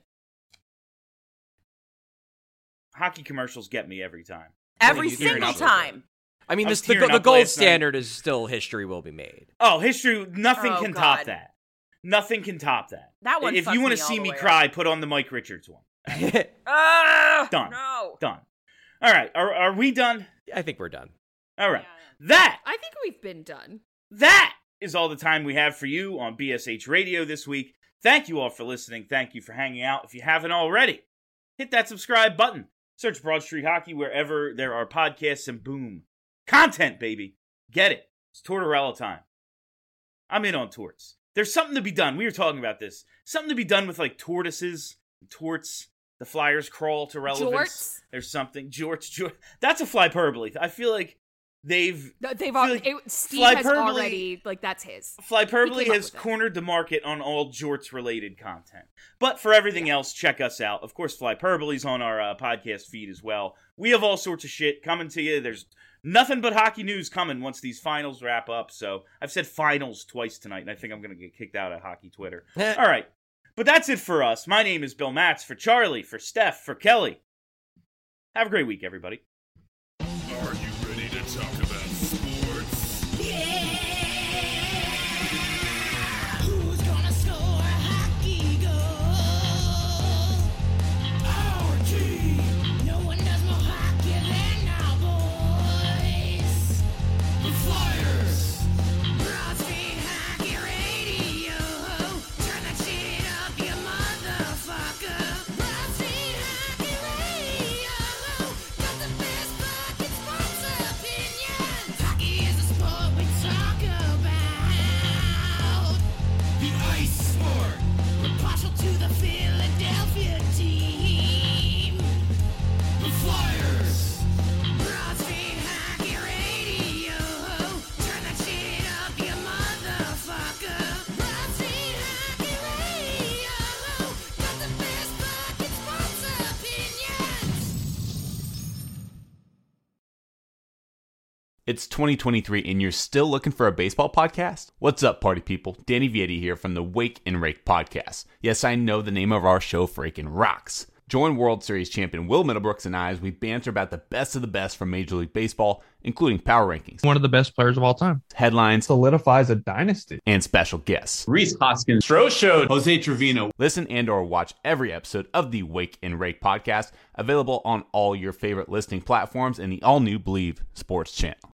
Hockey commercials get me every time. Every you single tearing up? time. I mean, I this, was the, tearing the up gold last night. standard is still history will be made. Oh, history! Nothing Oh, can top God. that. Nothing can top that. That one If fucks you want me to all see the me way cry, up. put on the Mike Richards one. Ah, Done. No. Done. All right. Are are we done? I think we're done. All right. Yeah. That I think we've been done. That is all the time we have for you on B S H Radio this week. Thank you all for listening. Thank you for hanging out. If you haven't already, hit that subscribe button. Search Broad Street Hockey wherever there are podcasts, and boom. Content, baby. Get it. It's Tortorella time. I'm in on torts. There's something to be done. We were talking about this. Something to be done with like tortoises, torts. The Flyers crawl to relevance. Jorts? There's something. Jorts, Jorts. That's a flyperbole. I feel like they've Th- They've feel al- like it, Steve has Flyperbole- already like that's his. Flyperbole He came up has with it. cornered the market on all jorts related content. But for everything else, check us out. Of course, Flyperbole is on our uh, podcast feed as well. We have all sorts of shit coming to you. There's nothing but hockey news coming once these finals wrap up. So I've said finals twice tonight, and I think I'm going to get kicked out of hockey Twitter. All right. But that's it for us. My name is Bill Matz. For Charlie, for Steph, for Kelly. Have a great week, everybody. Are you ready to talk about sports? Who's gonna score a hockey goal? Our team. No one does more hockey than our boys. The Flyers. Broad Street Hockey Radio. Turn that shit up, you motherfucker. Broad Street Hockey Radio. Got the best fucking sports opinions. Hockey is a sport we talk about. The ice sport. We're partial to the Philadelphia team. The Flyers. Broad Street Hockey Radio. Turn that shit up, you motherfucker. Broad Street Hockey Radio. Got the best fucking sports opinions. It's twenty twenty-three and you're still looking for a baseball podcast? What's up, party people? Danny Vietti here from the Wake and Rake podcast. Yes, I know the name of our show freaking rocks. Join World Series champion Will Middlebrooks and I as we banter about the best of the best from Major League Baseball, including power rankings, One of the best players of all time. headlines, Solidifies a dynasty. and special guests. Reese Hoskins, Stro showed Jose Trevino. Listen and or watch every episode of the Wake and Rake podcast, available on all your favorite listening platforms and the all-new Believe Sports channel.